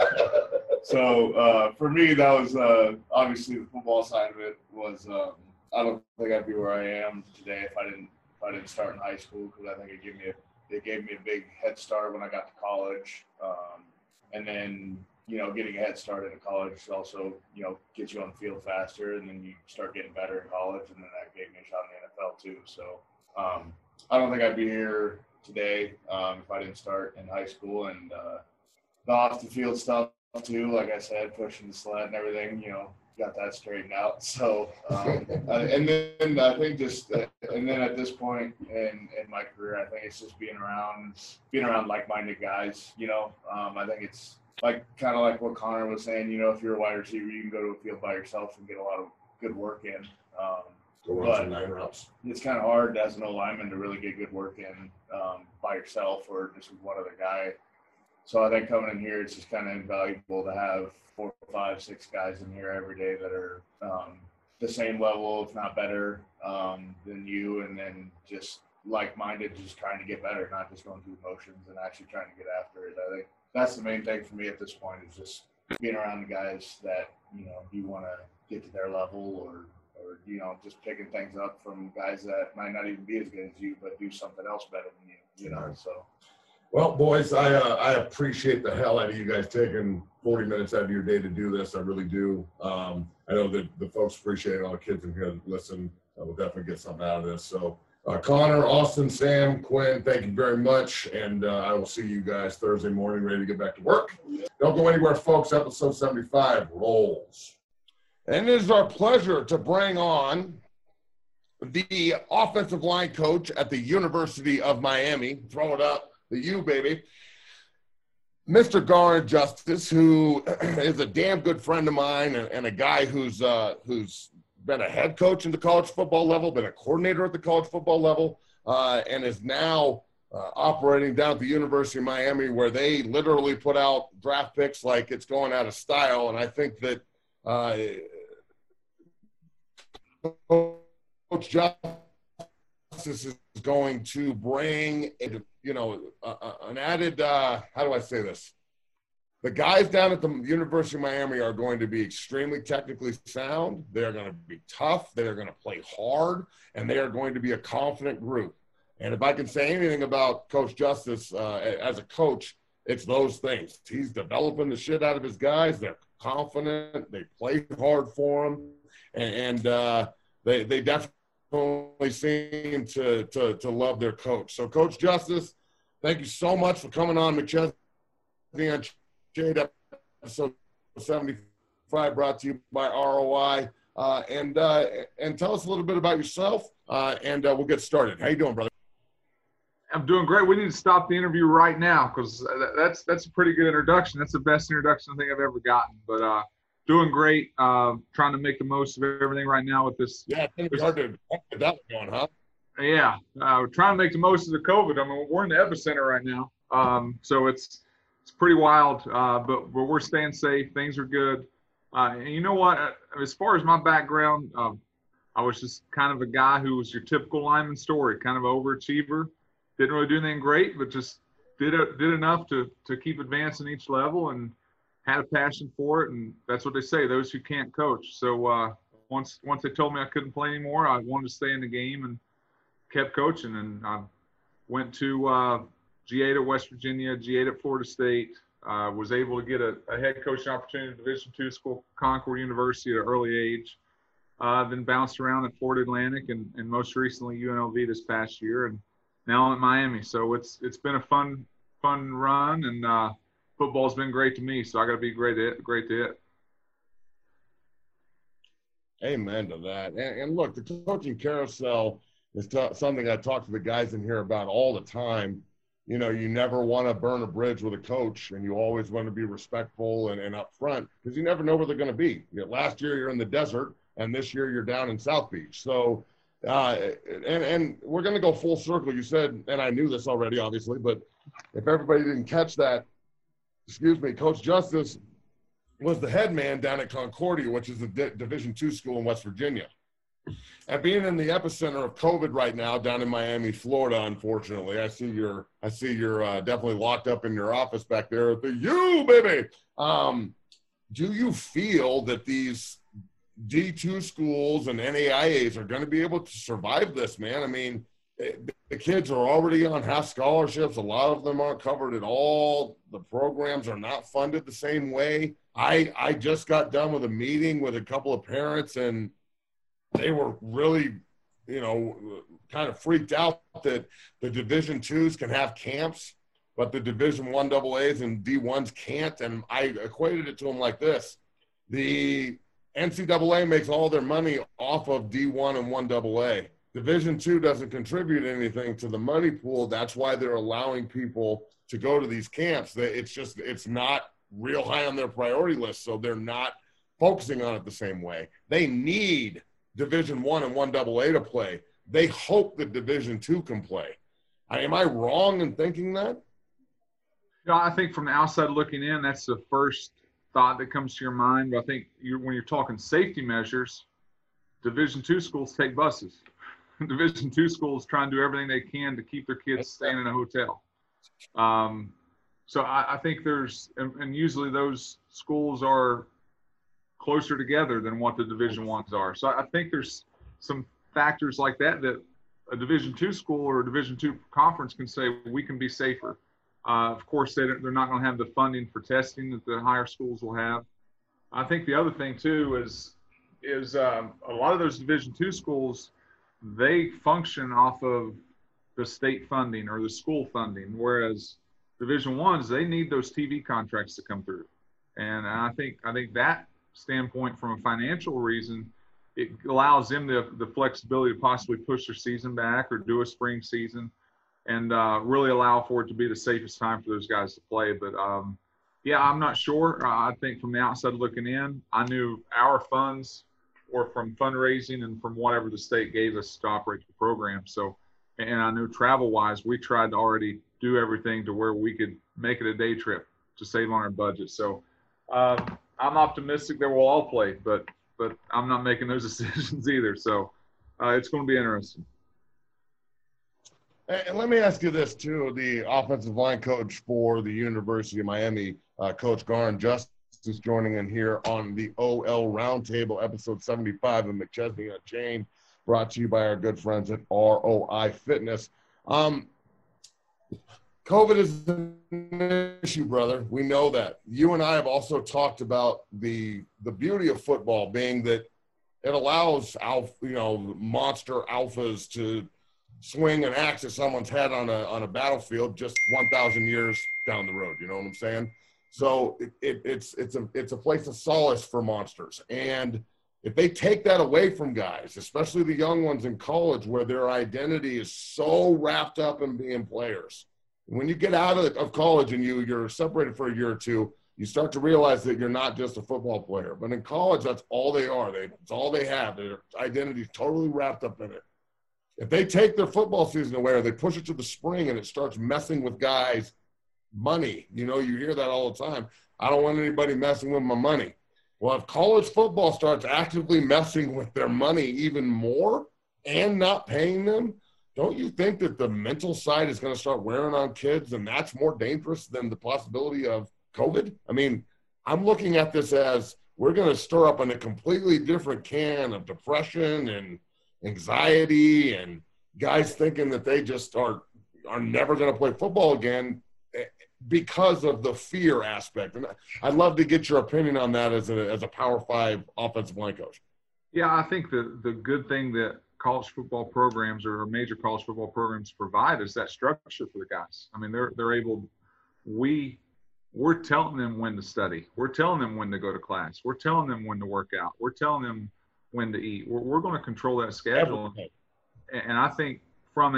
So for me, that was obviously the football side of it was. I don't think I'd be where I am today if I didn't start in high school, because I think it gave me a big head start when I got to college. And then, you know, getting a head start in college also, you know, gets you on the field faster, and then you start getting better in college, and then that gave me a shot in the NFL too. So I don't think I'd be here today if I didn't start in high school. And the off the field stuff too, like I said, pushing the sled and everything, you know, got that straightened out. So, and then I think and then at this point in my career, I think it's just being around like-minded guys, you know. I think it's like kind of like what Connor was saying, you know, if you're a wide receiver, you can go to a field by yourself and get a lot of good work in. But it's kind of hard as an O-lineman to really get good work in by yourself or just with one other guy. So I think coming in here, it's just kind of invaluable to have 4, 5, 6 guys in here every day that are the same level, if not better, than you, and then just like-minded, just trying to get better, not just going through the motions and actually trying to get after it. I think that's the main thing for me at this point, is just being around the guys that, you know, you want to get to their level, or you know, just picking things up from guys that might not even be as good as you, but do something else better than you know, so. Well, boys, I appreciate the hell out of you guys taking 40 minutes out of your day to do this. I really do. I know that the folks appreciate it. All the kids in here that listen will definitely get something out of this. So, Connor, Austin, Sam, Quinn, thank you very much. And I will see you guys Thursday morning, ready to get back to work. Don't go anywhere, folks. Episode 75 rolls. And it is our pleasure to bring on the offensive line coach at the University of Miami. Throw it up. The U, baby. Mr. Garner Justice, who is a damn good friend of mine and a guy who's been a head coach in the college football level, been a coordinator at the college football level, and is now operating down at the University of Miami, where they literally put out draft picks like it's going out of style. And I think that Coach Justice is going to bring an added, how do I say this? The guys down at the University of Miami are going to be extremely technically sound. They're going to be tough. They're going to play hard, and they are going to be a confident group. And if I can say anything about Coach Justice as a coach, it's those things. He's developing the shit out of his guys. They're confident. They play hard for him, and they definitely seem to love their coach. So, Coach Justice, thank you so much for coming on McChesney Unchained, episode 75, brought to you by ROI. And tell us a little bit about yourself, and we'll get started. How you doing, brother? I'm doing great. We need to stop the interview right now, because that's a pretty good introduction. That's the best introduction I think I've ever gotten. But doing great. Trying to make the most of everything right now with this. Yeah, it's going to be hard to get that going, huh? Yeah, trying to make the most of the COVID. I mean, we're in the epicenter right now, so it's pretty wild. But we're staying safe. Things are good. And you know what? As far as my background, I was just kind of a guy who was your typical lineman story, kind of an overachiever. Didn't really do anything great, but just did enough to keep advancing each level, and had a passion for it. And that's what they say, those who can't coach. So once they told me I couldn't play anymore, I wanted to stay in the game and kept coaching. And I went to G8 at West Virginia, G8 at Florida State. Was able to get a head coaching opportunity at Division II school, Concord University, at an early age. Then bounced around at Florida Atlantic and most recently UNLV this past year, and now I'm at Miami. So it's been a fun run, and football's been great to me. So I got to be great to it. Amen to that. And look, the coaching carousel is something I talk to the guys in here about all the time. You know, you never want to burn a bridge with a coach, and you always want to be respectful and upfront, because you never know where they're going to be. You know, last year you're in the desert, and this year you're down in South Beach. So, and we're going to go full circle. You said, and I knew this already, obviously, but if everybody didn't catch that, Coach Justice was the head man down at Concordia, which is a Division II school in West Virginia. And being in the epicenter of COVID right now down in Miami, Florida, unfortunately, I see you're definitely locked up in your office back there at the U, baby. Do you feel that these D2 schools and NAIAs are going to be able to survive this, man? I mean, the kids are already on half scholarships. A lot of them aren't covered at all. The programs are not funded the same way. I just got done with a meeting with a couple of parents, and they were really, kind of freaked out that the Division IIs can have camps, but the Division I AAs and D1s can't. And I equated it to them like this. The NCAA makes all their money off of D1 and 1AA. Division II doesn't contribute anything to the money pool. That's why they're allowing people to go to these camps. It's not real high on their priority list, so they're not focusing on it the same way. They need Division I and 1AA to play. They hope that Division II can play. Am I wrong in thinking that? I think from the outside looking in, that's the first thought that comes to your mind. But I think when you're talking safety measures, Division II schools take buses. Division II schools try and do everything they can to keep their kids staying in a hotel. So I think and usually those schools are closer together than what the Division I's are. So I think there's some factors like that a Division II school or a Division II conference can say we can be safer. Of course, they're not going to have the funding for testing that the higher schools will have. I think the other thing too is a lot of those Division II schools, they function off of the state funding or the school funding, whereas Division I's, they need those TV contracts to come through. And I think that standpoint, from a financial reason, it allows them the flexibility to possibly push their season back or do a spring season and really allow for it to be the safest time for those guys to play. But yeah, I'm not sure. I think from the outside looking in, I knew our funds were from fundraising and from whatever the state gave us to operate the program. So, and I knew travel wise, we tried to already do everything to where we could make it a day trip to save on our budget. So I'm optimistic that we'll all play, but I'm not making those decisions either. So it's going to be interesting. And let me ask you this too, the offensive line coach for the University of Miami, Coach Garn Justice, is joining in here on the OL Roundtable, episode 75 of McChesney Unchained, brought to you by our good friends at ROI Fitness. COVID is an issue, brother. We know that. You and I have also talked about the beauty of football being that it allows monster alphas to swing an axe at someone's head on a battlefield just 1,000 years down the road. You know what I'm saying? So it's a place of solace for monsters. And if they take that away from guys, especially the young ones in college where their identity is so wrapped up in being players, when you get out of college and you're separated for a year or two, you start to realize that you're not just a football player. But in college, that's all they are. It's all they have. Their identity is totally wrapped up in it. If they take their football season away or they push it to the spring and it starts messing with guys' money, you hear that all the time. I don't want anybody messing with my money. Well, if college football starts actively messing with their money even more and not paying them, don't you think that the mental side is going to start wearing on kids, and that's more dangerous than the possibility of COVID? I mean, I'm looking at this as we're going to stir up in a completely different can of depression and anxiety and guys thinking that they just are are never going to play football again because of the fear aspect. And I'd love to get your opinion on that as a Power 5 offensive line coach. Yeah, I think the good thing that college football programs or major college football programs provide is that structure for the guys. I mean, they're able. We're telling them when to study. We're telling them when to go to class. We're telling them when to work out. We're telling them when to eat. We're going to control that schedule. And I think from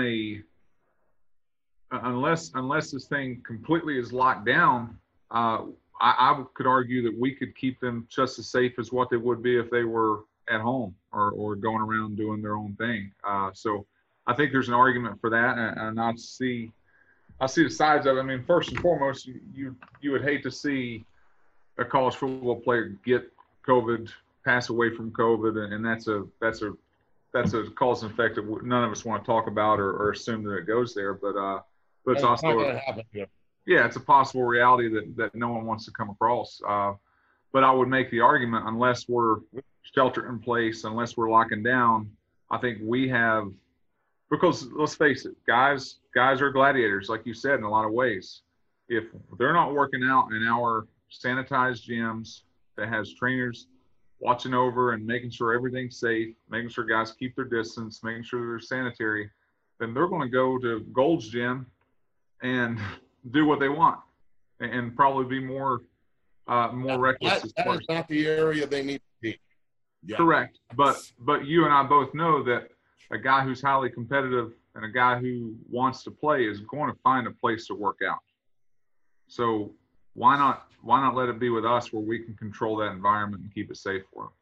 unless this thing completely is locked down, I could argue that we could keep them just as safe as what they would be if they were at home or going around doing their own thing. So I think there's an argument for that, and I see the sides of it. I mean, first and foremost, you would hate to see a college football player get COVID, pass away from COVID, and that's a cause and effect that none of us want to talk about or assume that it goes there. But it's also not going to happen here. Yeah, it's a possible reality that no one wants to come across. But I would make the argument, unless we're shelter in place, unless we're locking down, I think we have. Because let's face it, guys are gladiators, like you said, in a lot of ways. If they're not working out in our sanitized gyms that has trainers watching over and making sure everything's safe, making sure guys keep their distance, making sure they're sanitary, then they're going to go to Gold's Gym and do what they want and probably be more reckless. That is not the area they need to be. Yeah. Correct. But you and I both know that a guy who's highly competitive and a guy who wants to play is going to find a place to work out. So why not let it be with us where we can control that environment and keep it safe for them?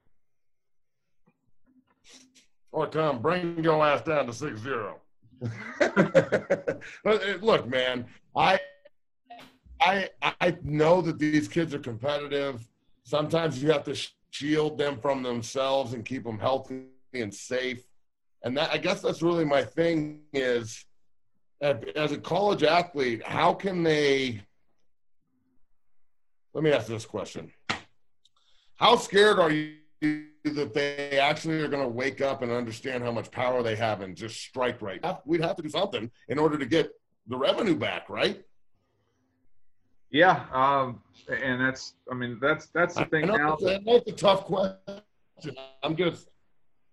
Or Tom, bring your ass down to 6-0. Look, man, I know that these kids are competitive. Sometimes you have to shield them from themselves and keep them healthy and safe. And I guess that's really my thing is, as a college athlete, how can they – let me ask this question. How scared are you that they actually are going to wake up and understand how much power they have and just strike right? We'd have to do something in order to get the revenue back, right? Yeah, and that's the thing now. That's a tough question. I'm just –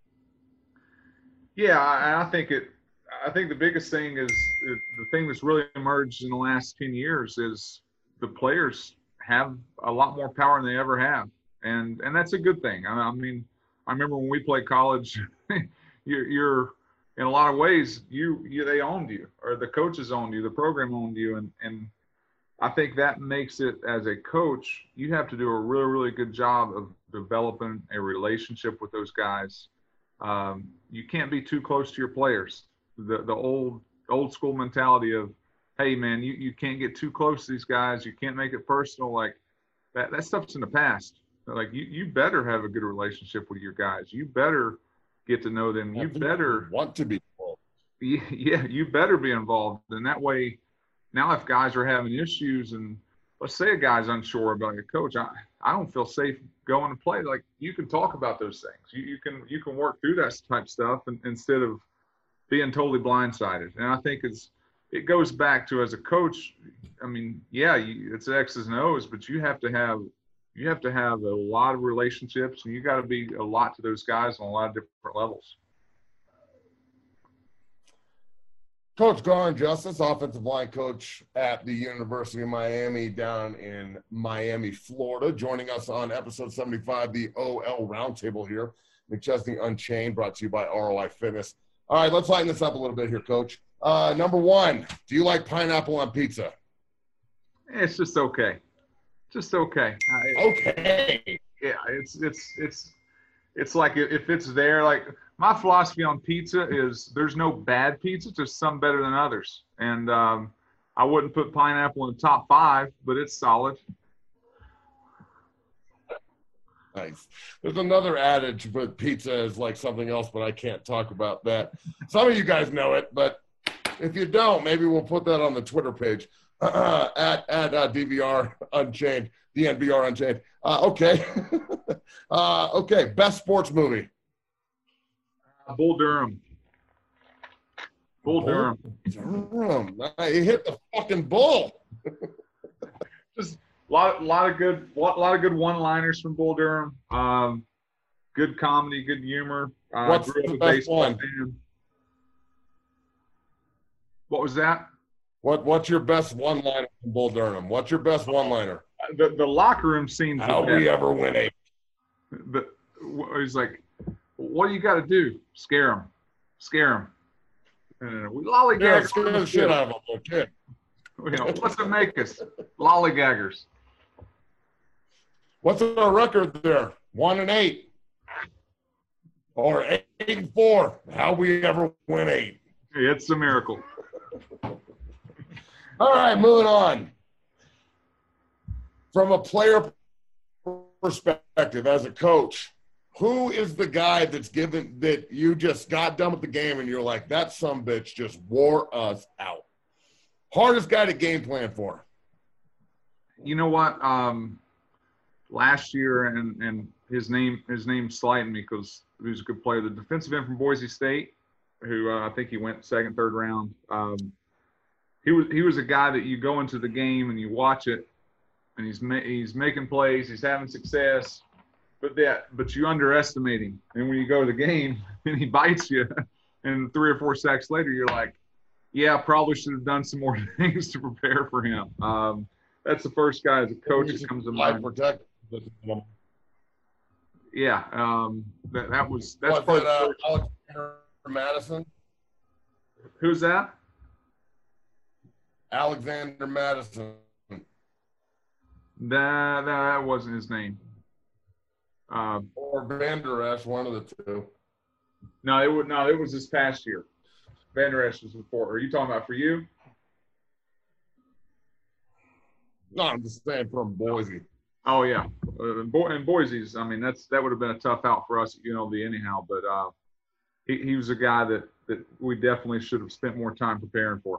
yeah, I think the biggest thing is the thing that's really emerged in the last 10 years is the players have a lot more power than they ever have, and that's a good thing. I mean, I remember when we played college, you're in a lot of ways they owned you, or the coaches owned you, the program owned you, and I think that makes it, as a coach, you have to do a really, really good job of developing a relationship with those guys. You can't be too close to your players. The old school mentality of, hey man, you can't get too close to these guys. You can't make it personal. Like that stuff's in the past. Like you better have a good relationship with your guys. You better get to know them. You better want to be involved. Yeah, you better be involved. And that way, now if guys are having issues and let's say a guy's unsure about your coach, I don't feel safe going to play. Like you can talk about those things. You can work through that type stuff instead of being totally blindsided. And I think it goes back to, as a coach, I mean, yeah, it's X's and O's, but you have to have a lot of relationships, and you got to be a lot to those guys on a lot of different levels. Coach Garn Justice, offensive line coach at the University of Miami down in Miami, Florida, joining us on episode 75, the OL Roundtable here. McChesney Unchained, brought to you by ROI Fitness. All right, let's lighten this up a little bit here, Coach. Number one, do you like pineapple on pizza? It's just okay. Just okay. Okay. Yeah, it's like if it's there, like my philosophy on pizza is there's no bad pizza, just some better than others. And I wouldn't put pineapple in the top 5, but it's solid. Nice. There's another adage, but pizza is like something else, but I can't talk about that. Some of you guys know it, but if you don't, maybe we'll put that on the Twitter page at DVR Unchained, DNVR Unchained. Okay. Okay. Best sports movie. Bull Durham. Bull Durham. Durham. He hit the fucking bull. Just a lot of good one-liners from Bull Durham. Good comedy, good humor. What's Grew up the a best baseball one? fan. What was that? What's your best one-liner from Bull Durham? What's your best one-liner? The locker room scenes. How we ever win a? He's like, what do you got to do? Scare him. And we lollygag. Yeah, scare the shit out of him, little kid. You know, what's it make us? Lollygaggers. What's our record there? 1-8. Or 8-4. How we ever win 8? It's a miracle. All right, moving on. From a player perspective, as a coach, who is the guy that's given that you just got done with the game and you're like, that sumbitch just wore us out? Hardest guy to game plan for? You know what? Last year, and his name slighted me because he was a good player. The defensive end from Boise State, who I think he went second, third round. He was a guy that you go into the game and you watch it, and he's making plays, he's having success, but you underestimate him. And when you go to the game and he bites you, and 3 or 4 sacks later, you're like, yeah, probably should have done some more things to prepare for him. That's the first guy as a coach that comes to mind. Yeah, that's part of Alexander Madison. Who's that? Alexander Madison. That wasn't his name. Or Van Der Esch, one of the two. No, it was this past year. Van Der Esch was before. Are you talking about for you? No, I'm just saying from Boise. Oh yeah, and Boise's. I mean, that would have been a tough out for us, anyhow. But he was a guy that we definitely should have spent more time preparing for.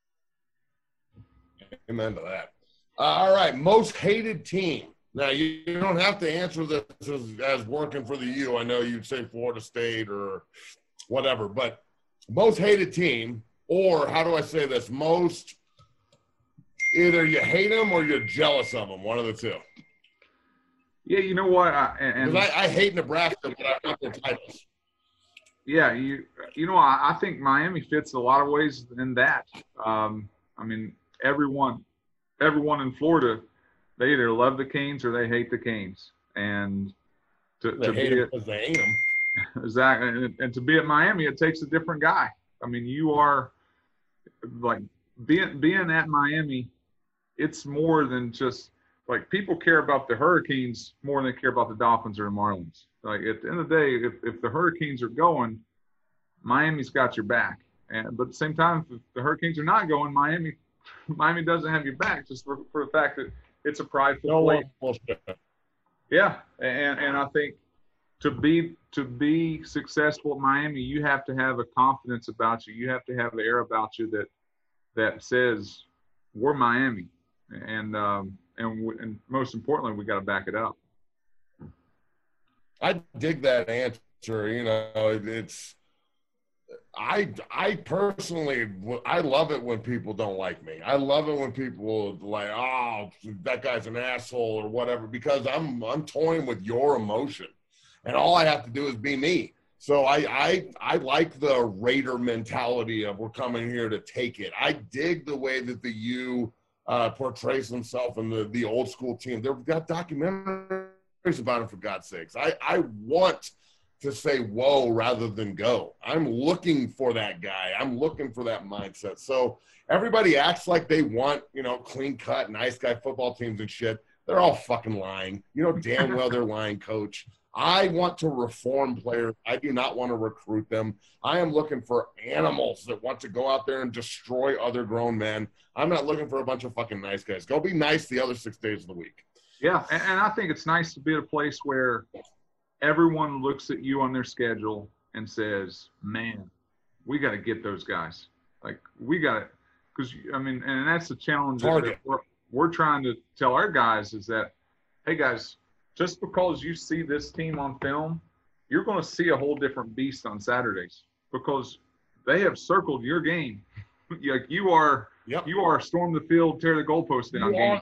Amen to that. All right, most hated team. Now, you don't have to answer this as working for the U. I know you'd say Florida State or whatever, but most hated team, or how do I say this? Most, either you hate them or you're jealous of them, one of the two. Yeah, you know what? I hate Nebraska, but I want their titles. Yeah, I think Miami fits a lot of ways in that. I mean, everyone in Florida, they either love the Canes or they hate the Canes. And they hate them because they hate them. Exactly. And to be at Miami, it takes a different guy. I mean, you are like being at Miami, it's more than just like people care about the Hurricanes more than they care about the Dolphins or the Marlins. Like at the end of the day, if the Hurricanes are going, Miami's got your back. But at the same time, if the Hurricanes are not going, Miami doesn't have your back just for the fact that it's a prideful place. Yeah, and I think to be successful at Miami, you have to have a confidence about you. You have to have an air about you that says we're Miami, and most importantly, we got to back it up. I dig that answer. It's. I personally, I love it when people don't like me. I love it when people like, oh, that guy's an asshole or whatever, because I'm toying with your emotion, and all I have to do is be me. So I like the Raider mentality of we're coming here to take it. I dig the way that the U portrays himself in the old school team. They've got documentaries about him, for God's sakes. I want to say whoa rather than go. I'm looking for that guy. I'm looking for that mindset. So everybody acts like they want, clean cut, nice guy football teams and shit. They're all fucking lying. You know damn well they're lying, coach. I want to reform players. I do not want to recruit them. I am looking for animals that want to go out there and destroy other grown men. I'm not looking for a bunch of fucking nice guys. Go be nice the other 6 days of the week. Yeah, and I think it's nice to be at a place where everyone looks at you on their schedule and says, man, we got to get those guys. Like, we got to – because, I mean, and that's the challenge that we're trying to tell our guys is that, hey, guys, just because you see this team on film, you're going to see a whole different beast on Saturdays because they have circled your game. Like you are storm the field, tear the goalpost down game.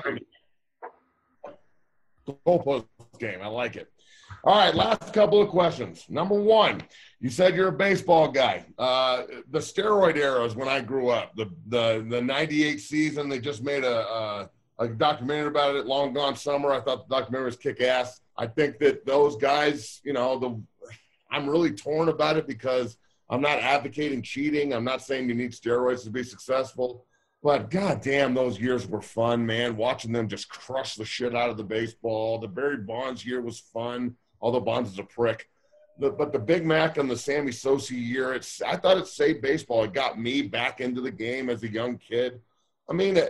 Goalpost game. I like it. All right, last couple of questions. Number one, you said you're a baseball guy. The steroid era is when I grew up. The 98 season, they just made a documentary about it, Long Gone Summer. I thought the documentary was kick-ass. I think that those guys, I'm really torn about it because I'm not advocating cheating. I'm not saying you need steroids to be successful. But goddamn, those years were fun, man. Watching them just crush the shit out of the baseball. The Barry Bonds year was fun, although Bonds is a prick. But the Big Mac and the Sammy Sosa year, I thought it saved baseball. It got me back into the game as a young kid. I mean,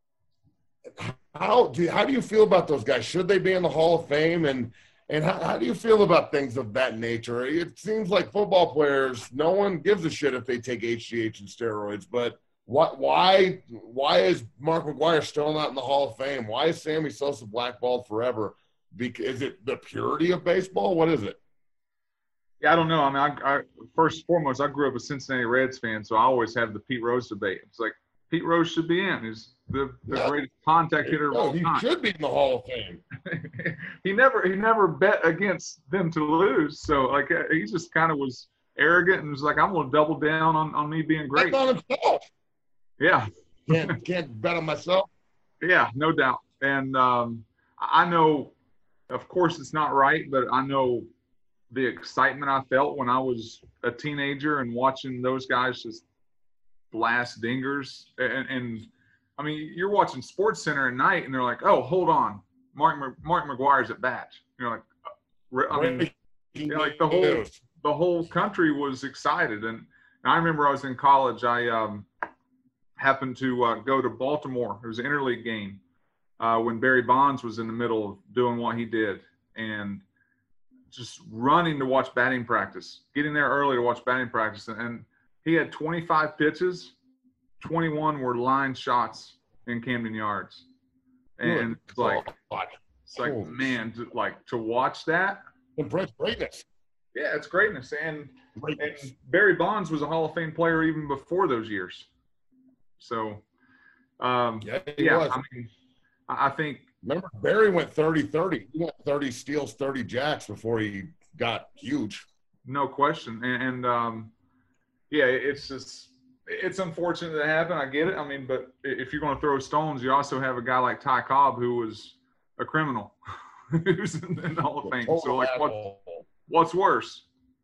how do you feel about those guys? Should they be in the Hall of Fame? And how do you feel about things of that nature? It seems like football players, no one gives a shit if they take HGH and steroids, but why is Mark McGwire still not in the Hall of Fame? Why is Sammy Sosa blackballed forever? Is it the purity of baseball? What is it? Yeah, I don't know. I mean, I first and foremost, I grew up a Cincinnati Reds fan, so I always have the Pete Rose debate. It's like Pete Rose should be in. He's the greatest contact hitter of all time. He should be in the Hall of Fame. he never bet against them to lose. So like he just kind of was arrogant and was like, I'm going to double down on me being great. That's on himself. Yeah. Can't bet on myself. Yeah, no doubt. And I know, of course, it's not right, but I know the excitement I felt when I was a teenager and watching those guys just blast dingers. And I mean, you're watching Sports Center at night, and they're like, "Oh, hold on, Mark McGwire's at bat." You're like, I mean, like the whole country was excited. And I remember I was in college. I happened to go to Baltimore. It was an interleague game when Barry Bonds was in the middle of doing what he did, and just running to watch batting practice, getting there early to watch batting practice. And he had 25 pitches, 21 were line shots in Camden Yards. And it's like, man, to watch that. Embrace greatness. Yeah, it's greatness. And Barry Bonds was a Hall of Fame player even before those years. So, he was. I mean, I think. Remember, Barry went 30-30. He went 30 steals, 30 jacks before he got huge. No question. And yeah, it's just – it's unfortunate that happened. I get it. I mean, but if you're going to throw stones, you also have a guy like Ty Cobb who was a criminal who's in the Hall of Fame. So, like, what's worse?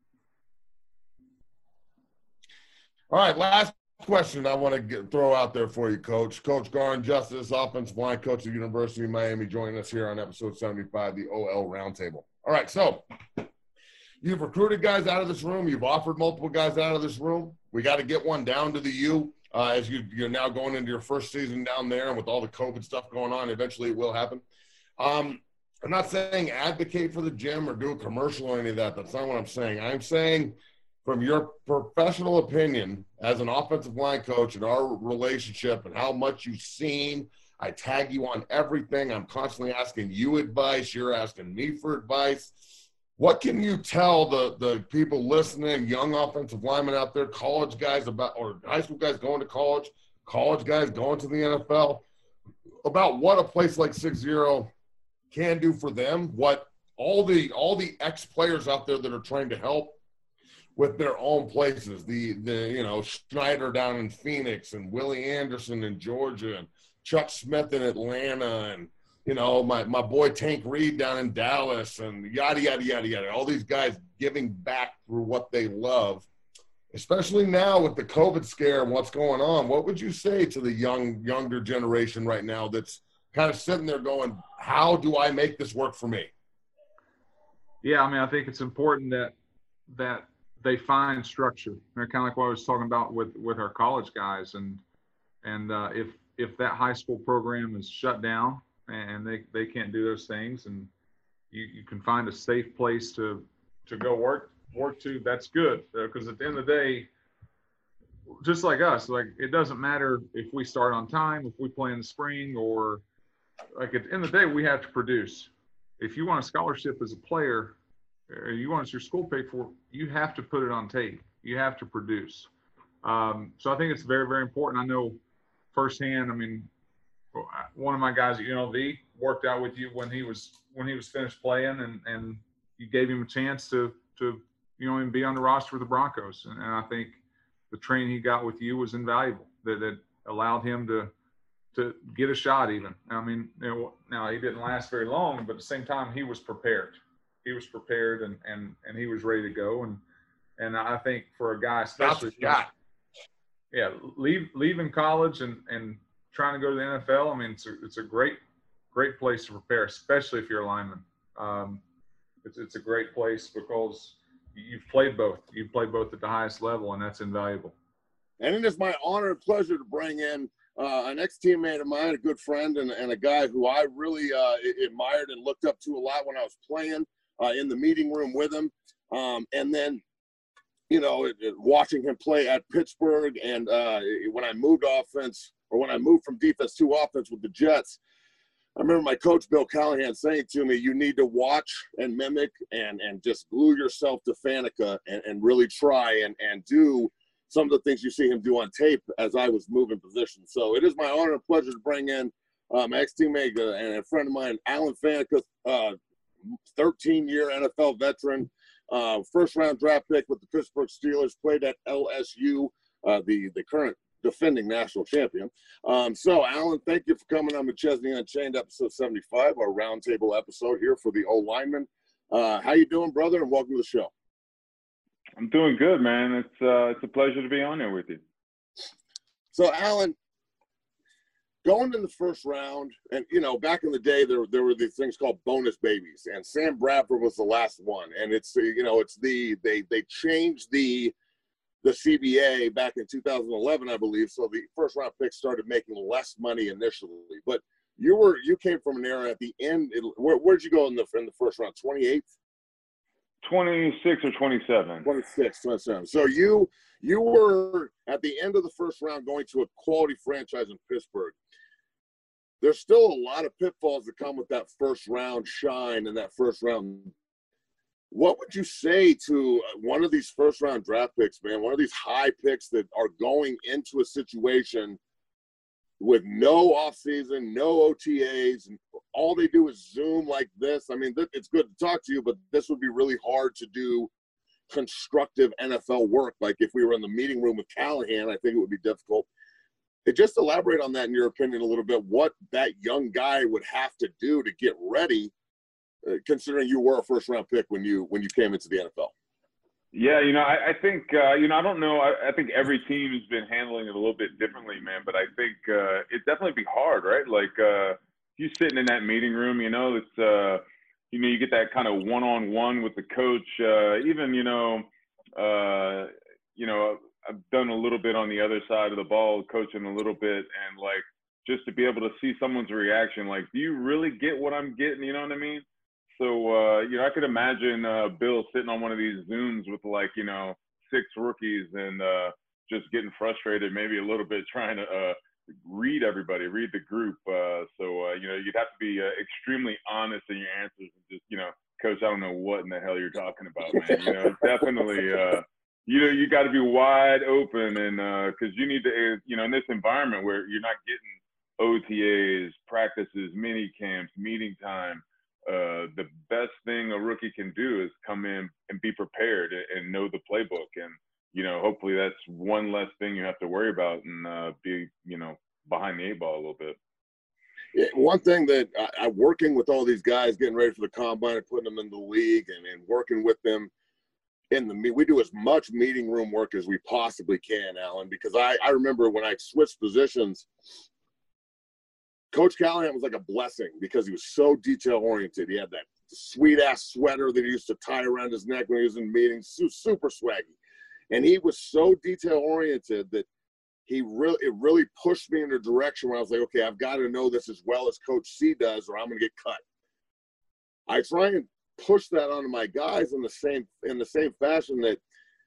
All right, last question I want to throw out there for you, Coach. Coach Garin Justice, offensive line coach at the University of Miami, joining us here on episode 75, the OL Roundtable. All right, so you've recruited guys out of this room. You've offered multiple guys out of this room. We got to get one down to the U as you're now going into your first season down there, and with all the COVID stuff going on, eventually it will happen. I'm not saying advocate for the gym or do a commercial or any of that. That's not what I'm saying. I'm saying from your professional opinion as an offensive line coach and our relationship and how much you've seen, I tag you on everything. I'm constantly asking you advice. You're asking me for advice. What can you tell the people listening, young offensive linemen out there, college guys or high school guys going to college guys going to the NFL, about what a place like 6-0 can do for them, what all the ex-players out there that are trying to help with their own places, the Schneider down in Phoenix and Willie Anderson in Georgia and Chuck Smith in Atlanta and my boy Tank Reed down in Dallas and yada, yada, yada, yada. All these guys giving back through what they love, especially now with the COVID scare and what's going on. What would you say to the younger generation right now that's kind of sitting there going, how do I make this work for me? Yeah, I mean, I think it's important that they find structure. Kind of like what I was talking about with our college guys. And if that high school program is shut down, and they can't do those things, and you can find a safe place to go work to, that's good. Because at the end of the day, just like us, like it doesn't matter if we start on time, if we play in the spring, or like at the end of the day, we have to produce. If you want a scholarship as a player, or you want your school paid for, you have to put it on tape. You have to produce. So I think it's very, very important. I know firsthand. I mean, one of my guys at UNLV worked out with you when he was finished playing, and you gave him a chance to and be on the roster with the Broncos. And I think the training he got with you was invaluable. That allowed him to get a shot even. I mean, now he didn't last very long, but at the same time he was prepared. He was prepared and he was ready to go. And I think for a guy, especially leaving college and trying to go to the NFL, I mean, it's a great place to prepare, especially if you're a lineman. It's a great place because you've played both. You've played both at the highest level, and that's invaluable. And it is my honor and pleasure to bring in an ex-teammate of mine, a good friend, and a guy who I really admired and looked up to a lot when I was playing in the meeting room with him. And then, watching him play at Pittsburgh, and when I moved from defense to offense with the Jets, I remember my coach, Bill Callahan, saying to me, you need to watch and mimic and just glue yourself to Faneca and really try and do some of the things you see him do on tape as I was moving positions. So it is my honor and pleasure to bring in my ex-teammate and a friend of mine, Alan Faneca, 13-year NFL veteran, first-round draft pick with the Pittsburgh Steelers, played at LSU, the current defending national champion. So, Alan, thank you for coming on McChesney Unchained, episode 75, our roundtable episode here for the O-lineman. How you doing, brother, and welcome to the show. I'm doing good, man. It's a pleasure to be on there with you. So, Alan, going in the first round, and, back in the day, there were these things called bonus babies, and Sam Bradford was the last one. And it's they changed the CBA back in 2011, I believe. So the first round picks started making less money initially. But you came from an era at the end. Where'd you go in the first round? 28th? 26 or 27. 27. So you were at the end of the first round going to a quality franchise in Pittsburgh. There's still a lot of pitfalls that come with that first round shine and that first round. What would you say to one of these first round draft picks, man, one of these high picks that are going into a situation with no offseason, no OTAs, and all they do is Zoom like this? I mean, it's good to talk to you, but this would be really hard to do constructive NFL work. Like if we were in the meeting room with Callahan, I think it would be difficult. Just elaborate on that in your opinion a little bit, what that young guy would have to do to get ready, considering you were a first-round pick when you came into the NFL. Yeah, I think, I don't know. I think every team has been handling it a little bit differently, man. But I think it'd definitely be hard, right? Like you sitting in that meeting room, it's, you get that kind of one-on-one with the coach. I've done a little bit on the other side of the ball, coaching a little bit, and like just to be able to see someone's reaction, like, do you really get what I'm getting? You know what I mean? So, I could imagine Bill sitting on one of these Zooms with 6 rookies and just getting frustrated, maybe a little bit trying to read everybody, read the group. You'd have to be extremely honest in your answers and just, coach, I don't know what in the hell you're talking about, man. Definitely, you got to be wide open, and because you need to, in this environment where you're not getting OTAs, practices, mini camps, meeting time. The best thing a rookie can do is come in and be prepared and know the playbook. And, hopefully that's one less thing you have to worry about and be, behind the 8 ball a little bit. Yeah, one thing that I'm working with all these guys, getting ready for the combine and putting them in the league and working with them we do as much meeting room work as we possibly can, Alan, because I remember when I switched positions, Coach Callahan was like a blessing because he was so detail-oriented. He had that sweet-ass sweater that he used to tie around his neck when he was in meetings, super swaggy. And he was so detail-oriented that it really pushed me in a direction where I was like, okay, I've got to know this as well as Coach C does or I'm going to get cut. I try and push that onto my guys in the same fashion that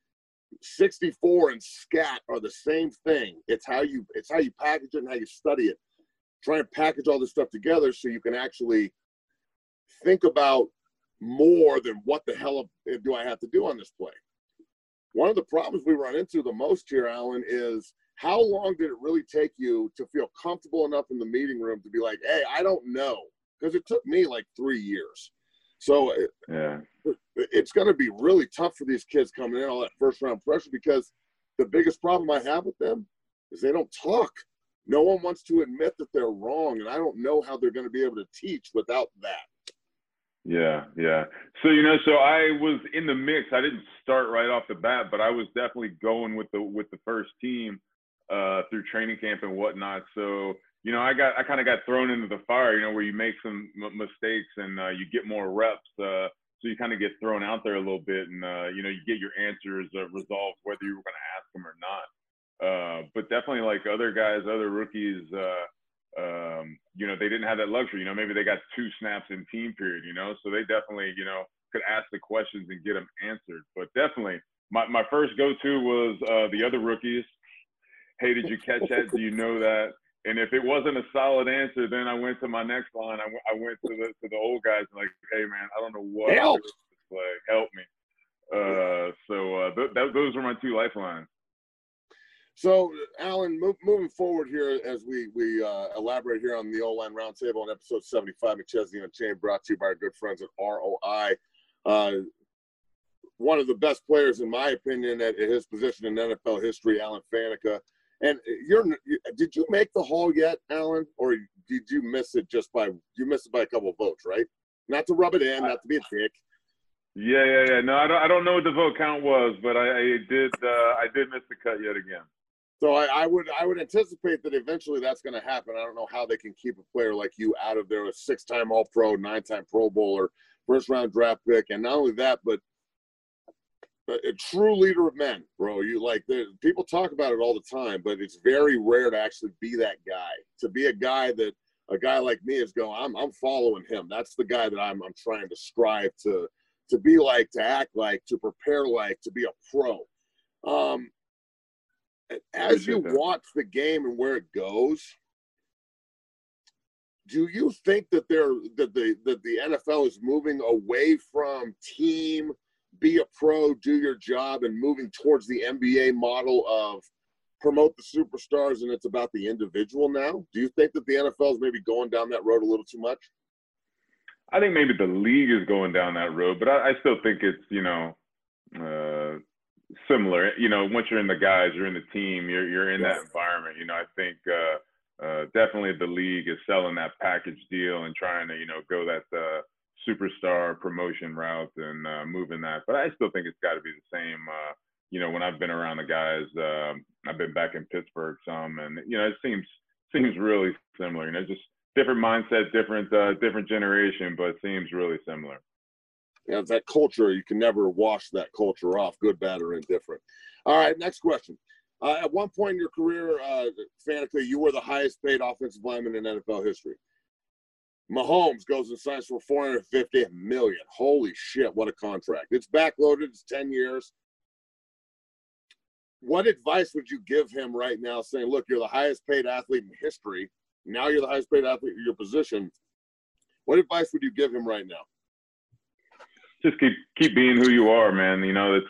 64 and scat are the same thing. It's how you package it and how you study it. Try and package all this stuff together so you can actually think about more than what the hell do I have to do on this play. one of the problems we run into the most here, Alan, is how long did it really take you to feel comfortable enough in the meeting room to be like, hey, I don't know? Because it took me like 3 years. So Yeah. it's going to be really tough for these kids coming in, all that first-round pressure, because the biggest problem I have with them is they don't talk. No one wants to admit that they're wrong, and I don't know how they're going to be able to teach without that. Yeah, yeah. So so I was in the mix. I didn't start right off the bat, but I was definitely going with the first team through training camp and whatnot. So I kind of got thrown into the fire. Where you make some mistakes and you get more reps. So you kind of get thrown out there a little bit, and you get your answers resolved whether you were going to ask them or not. But definitely, like other guys, other rookies. They didn't have that luxury. Maybe they got 2 snaps in team period, so they definitely, could ask the questions and get them answered. But definitely, my first go-to was the other rookies. Hey, did you catch that? Do you know that? And if it wasn't a solid answer, then I went to my next line. I went to the old guys like, hey, man, I don't know what to do with this play. Help me. Those were my 2 lifelines. So, Alan, moving forward here as we elaborate here on the O-Line Roundtable on episode 75, McChesney Unchained, brought to you by our good friends at ROI. One of the best players, in my opinion, at his position in NFL history, Alan Faneca. And did you make the Hall yet, Alan, or did you miss it by a couple of votes, right? Not to rub it in, not to be a dick. Yeah. No, I don't know what the vote count was, but I did miss the cut yet again. So I would anticipate that eventually that's going to happen. I don't know how they can keep a player like you out of there, a 6-time All-Pro, 9-time Pro Bowler, first-round draft pick, and not only that, but a true leader of men, bro. People talk about it all the time, but it's very rare to actually be that guy. To be a guy like me is going, I'm following him. That's the guy that I'm trying to strive to be like, to act like, to prepare like, to be a pro. As you watch the game and where it goes, do you think that the NFL is moving away from team, be a pro, do your job, and moving towards the NBA model of promote the superstars and it's about the individual now? Do you think that the NFL is maybe going down that road a little too much? I think maybe the league is going down that road, but I still think it's, similar. Once you're in the guys, you're in the team, you're in that environment. I think definitely the league is selling that package deal and trying to, go that superstar promotion route and moving that. But I still think it's got to be the same. When I've been around the guys, I've been back in Pittsburgh some, and it seems really similar. Just different mindset, different generation, but it seems really similar. It's that culture. You can never wash that culture off, good, bad, or indifferent. All right, next question. At one point in your career, Faneca, you were the highest paid offensive lineman in NFL history. Mahomes goes and signs for $450 million. Holy shit, what a contract. It's backloaded. It's 10 years. What advice would you give him right now saying, look, you're the highest paid athlete in history. Now you're the highest paid athlete in your position. What advice would you give him right now? Just keep being who you are, man.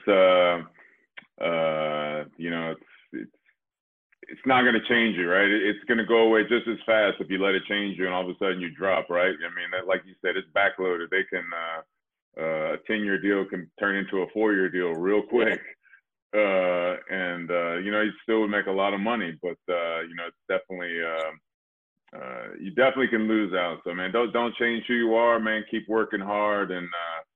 It's not going to change you, right? It's going to go away just as fast if you let it change you and all of a sudden you drop, right? I mean, like you said, it's backloaded. They can a 10-year deal can turn into a 4-year deal real quick. You still would make a lot of money, but it's definitely you definitely can lose out. So, man, don't change who you are, man. Keep working hard, and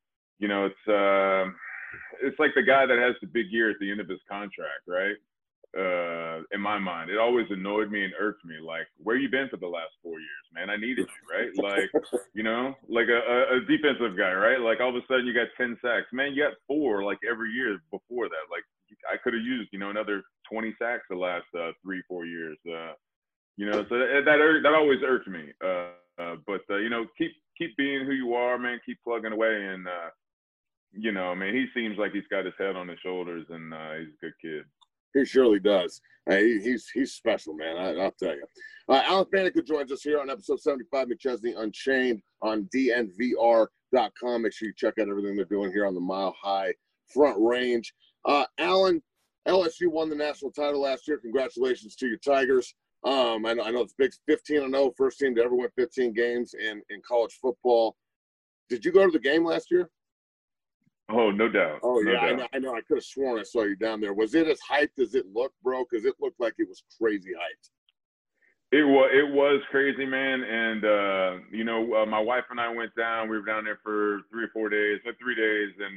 it's like the guy that has the big year at the end of his contract, right? In my mind, it always annoyed me and irked me. Like, where you been for the last 4 years, man? I needed you, right? Like, like a defensive guy, right? Like, all of a sudden you got 10 sacks, man. You got 4 like every year before that. Like, I could have used, another 20 sacks the last 3-4 years. So that always irked me. But keep being who you are, man. Keep plugging away, and he seems like he's got his head on his shoulders, and he's a good kid. He surely does. He's special, man. I'll tell you. Alan Faneca joins us here on episode 75, McChesney Unchained on DNVR.com. Make sure you check out everything they're doing here on the Mile High Front Range. Alan, LSU won the national title last year. Congratulations to your Tigers. I know it's big, 15-0, first team to ever win 15 games in college football. Did you go to the game last year? Oh, no doubt. Oh, no yeah, doubt. I know. I could have sworn I saw you down there. Was it as hyped as it looked, bro? Because it looked like it was crazy hyped. It was crazy, man. And, my wife and I went down. We were down there for 3 or 4 days, 3 days. And,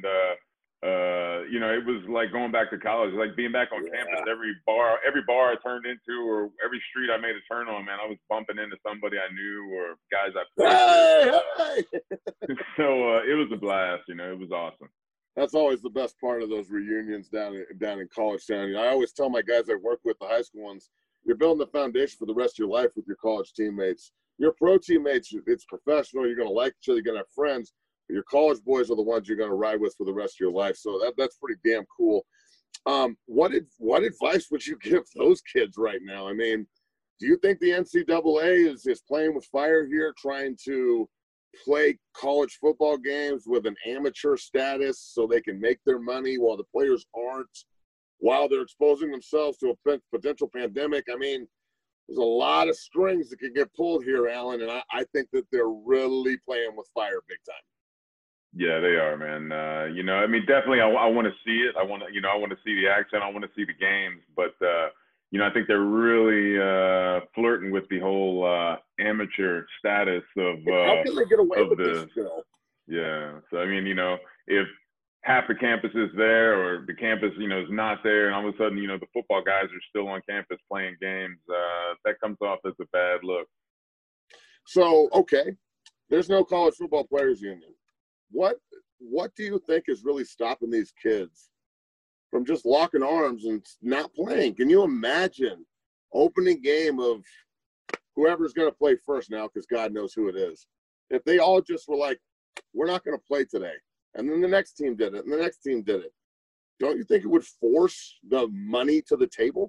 it was like going back to college, like being back on campus. Every bar I turned into or every street I made a turn on, man, I was bumping into somebody I knew or guys I played with. So it was a blast. It was awesome. That's always the best part of those reunions down in college town. I always tell my guys I work with, the high school ones, you're building the foundation for the rest of your life with your college teammates. Your pro teammates, it's professional. You're going to like each other. You're going to have friends. But your college boys are the ones you're going to ride with for the rest of your life. So that's pretty damn cool. What advice would you give those kids right now? I mean, do you think the NCAA is playing with fire here, trying to play college football games with an amateur status so they can make their money while the players aren't, while they're exposing themselves to a potential pandemic? I mean, there's a lot of strings that can get pulled here, Alan, and I think that they're really playing with fire big time. Yeah, they are, man. Definitely I want to see it. I want to see the action. I want to see the games. But, I think they're really flirting with the whole amateur status of how can they get away with this still? Yeah. So, if half the campus is there or the campus, is not there, and all of a sudden, the football guys are still on campus playing games, that comes off as a bad look. So, okay, there's no college football players union. What do you think is really stopping these kids from just locking arms and not playing? Can you imagine opening game of whoever's going to play first now, because God knows who it is, if they all just were like, we're not going to play today, and then the next team did it, and the next team did it? Don't you think it would force the money to the table?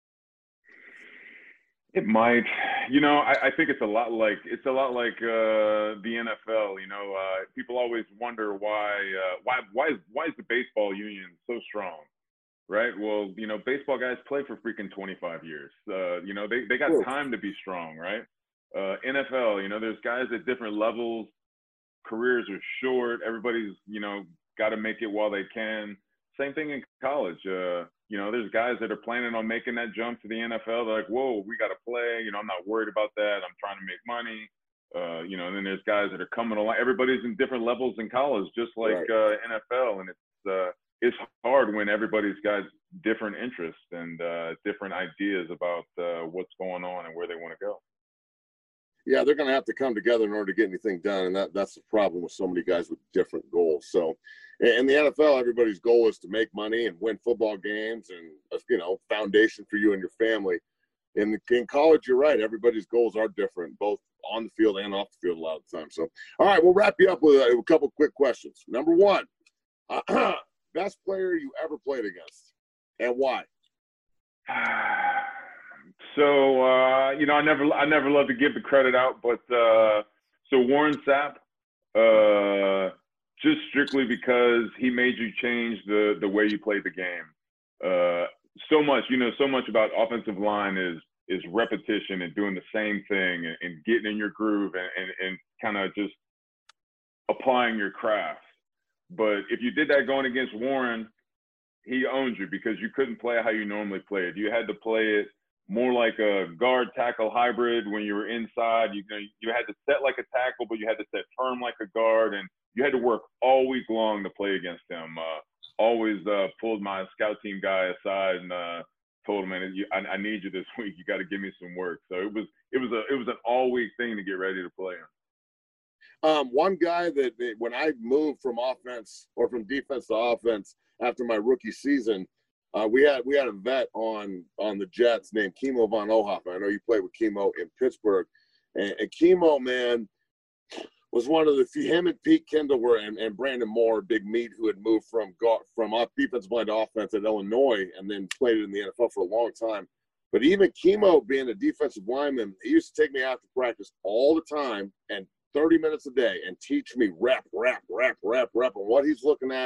It might. I think it's a lot like the NFL. People always wonder why is the baseball union so strong, right? Well, baseball guys play for freaking 25 years. They got time to be strong, right? NFL, there's guys at different levels. Careers are short. Everybody's got to make it while they can. Same thing in college. There's guys that are planning on making that jump to the NFL. They're like, whoa, we got to play. I'm not worried about that. I'm trying to make money. And then there's guys that are coming along. Everybody's in different levels in college, just like NFL. And it's hard when everybody's got different interests and different ideas about what's going on and where they want to go. Yeah, they're going to have to come together in order to get anything done, and that's the problem with so many guys with different goals. So, in the NFL, everybody's goal is to make money and win football games and, foundation for you and your family. In college, you're right. Everybody's goals are different, both on the field and off the field a lot of the time. So, all right, we'll wrap you up with a couple quick questions. Number one, best player you ever played against, and why? So, I never love to give the credit out, but so Warren Sapp, just strictly because he made you change the way you played the game. So much about offensive line is repetition and doing the same thing and getting in your groove and kind of just applying your craft. But if you did that going against Warren, he owned you because you couldn't play how you normally play it. You had to play it more like a guard tackle hybrid when you were inside. You had to set like a tackle, but you had to set firm like a guard, and you had to work all week long to play against him. Always pulled my scout team guy aside and told him, man, I need you this week. You got to give me some work. So it was an all week thing to get ready to play him. One guy that when I moved from offense or from defense to offense after my rookie season, we had a vet on the Jets named Kimo von Ohoffen. I know you played with Kimo in Pittsburgh, and Kimo, man, was one of the few. Him and Pete Kendall were and Brandon Moore, big meat, who had moved from defensive line to offense at Illinois and then played in the NFL for a long time. But even Kimo, being a defensive lineman, he used to take me out to practice all the time and 30 minutes a day and teach me rep on what he's looking at,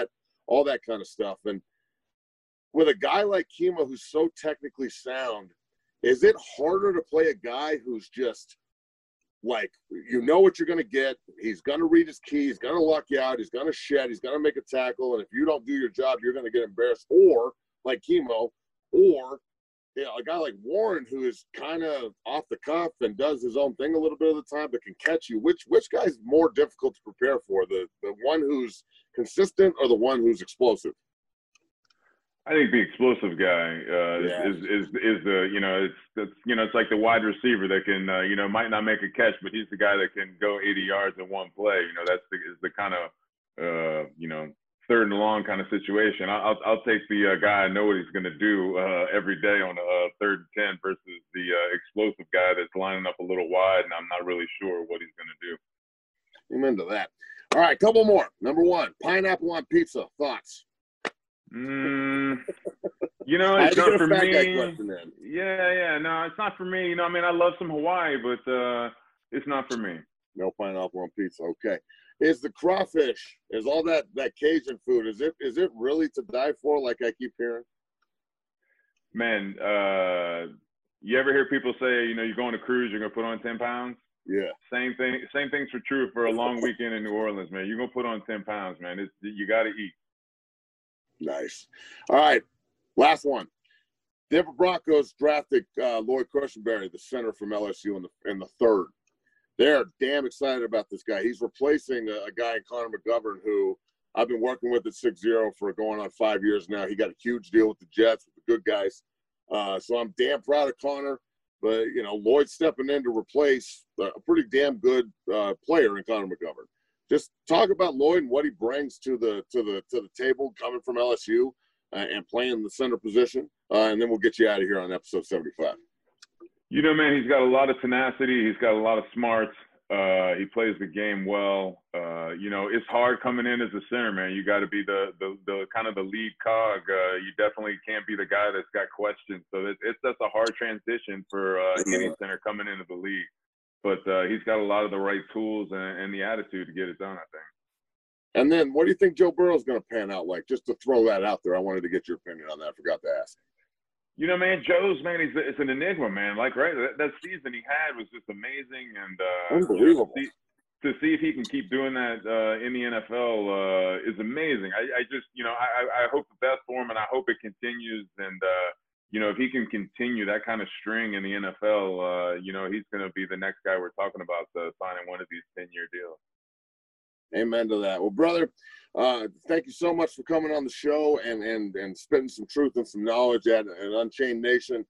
all that kind of stuff. And with a guy like Kimo who's so technically sound, is it harder to play a guy who's just like, you know what you're going to get? He's going to read his key. He's going to lock you out. He's going to shed. He's going to make a tackle. And if you don't do your job, you're going to get embarrassed. Or like Kimo, or a guy like Warren who is kind of off the cuff and does his own thing a little bit of the time, but can catch you. Which guy's more difficult to prepare for? The one who's consistent or the one who's explosive? I think the explosive guy is the, you know, it's like the wide receiver that can, you know, might not make a catch, but he's the guy that can go 80 yards in one play. You know, is the kind of, you know, third and long kind of situation. I'll take the guy I know what he's going to do every day on a 3rd and 10 versus the explosive guy that's lining up a little wide, and I'm not really sure what he's going to do. I'm into that. All right, couple more. Number 1, pineapple on pizza. Thoughts? You know, it's not for me. Yeah, no, it's not for me. You know, I mean, I love some Hawaii, but it's not for me. No pineapple on pizza. Okay. Is the crawfish, is all that Cajun food, is it really to die for, like I keep hearing? Man, you ever hear people say, you know, you're going to cruise, you're going to put on 10 pounds? Yeah. Same thing's for true for a long weekend in New Orleans, man. You're going to put on 10 pounds, man. You got to eat. Nice. All right, last one. Denver Broncos drafted Lloyd Cushenberry, the center from LSU, in the 3rd. They're damn excited about this guy. He's replacing a guy, Connor McGovern, who I've been working with at 6-0 for going on 5 years now. He got a huge deal with the Jets, with the good guys. So I'm damn proud of Connor. But, you know, Lloyd stepping in to replace a pretty damn good player in Connor McGovern. Just talk about Lloyd and what he brings to the table coming from LSU and playing the center position. And then we'll get you out of here on episode 75. You know, man, he's got a lot of tenacity. He's got a lot of smarts. He plays the game well. You know, it's hard coming in as a center, man. You got to be the kind of the lead cog. You definitely can't be the guy that's got questions. So that's a hard transition for any center coming into the league. But he's got a lot of the right tools and the attitude to get it done, I think. And then what do you think Joe Burrow's going to pan out like? Just to throw that out there, I wanted to get your opinion on that. I forgot to ask. You know, man, it's an enigma, man. Like, right, that season he had was just amazing. And unbelievable. To see if he can keep doing that in the NFL is amazing. I just, you know, I hope the best for him, and I hope it continues. And, you know, if he can continue that kind of string in the NFL, you know, he's going to be the next guy we're talking about signing one of these 10-year deals. Amen to that. Well, brother, thank you so much for coming on the show and spitting some truth and some knowledge at Unchained Nation.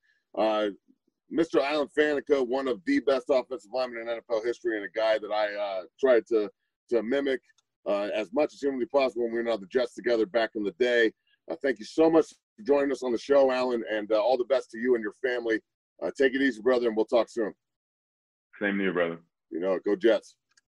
Mr. Alan Faneca, one of the best offensive linemen in NFL history, and a guy that I tried to mimic as much as humanly possible when we were on the Jets together back in the day. Thank you so much for joining us on the show, Alan, and all the best to you and your family. Take it easy, brother, and we'll talk soon. Same to you, brother. You know it. Go Jets.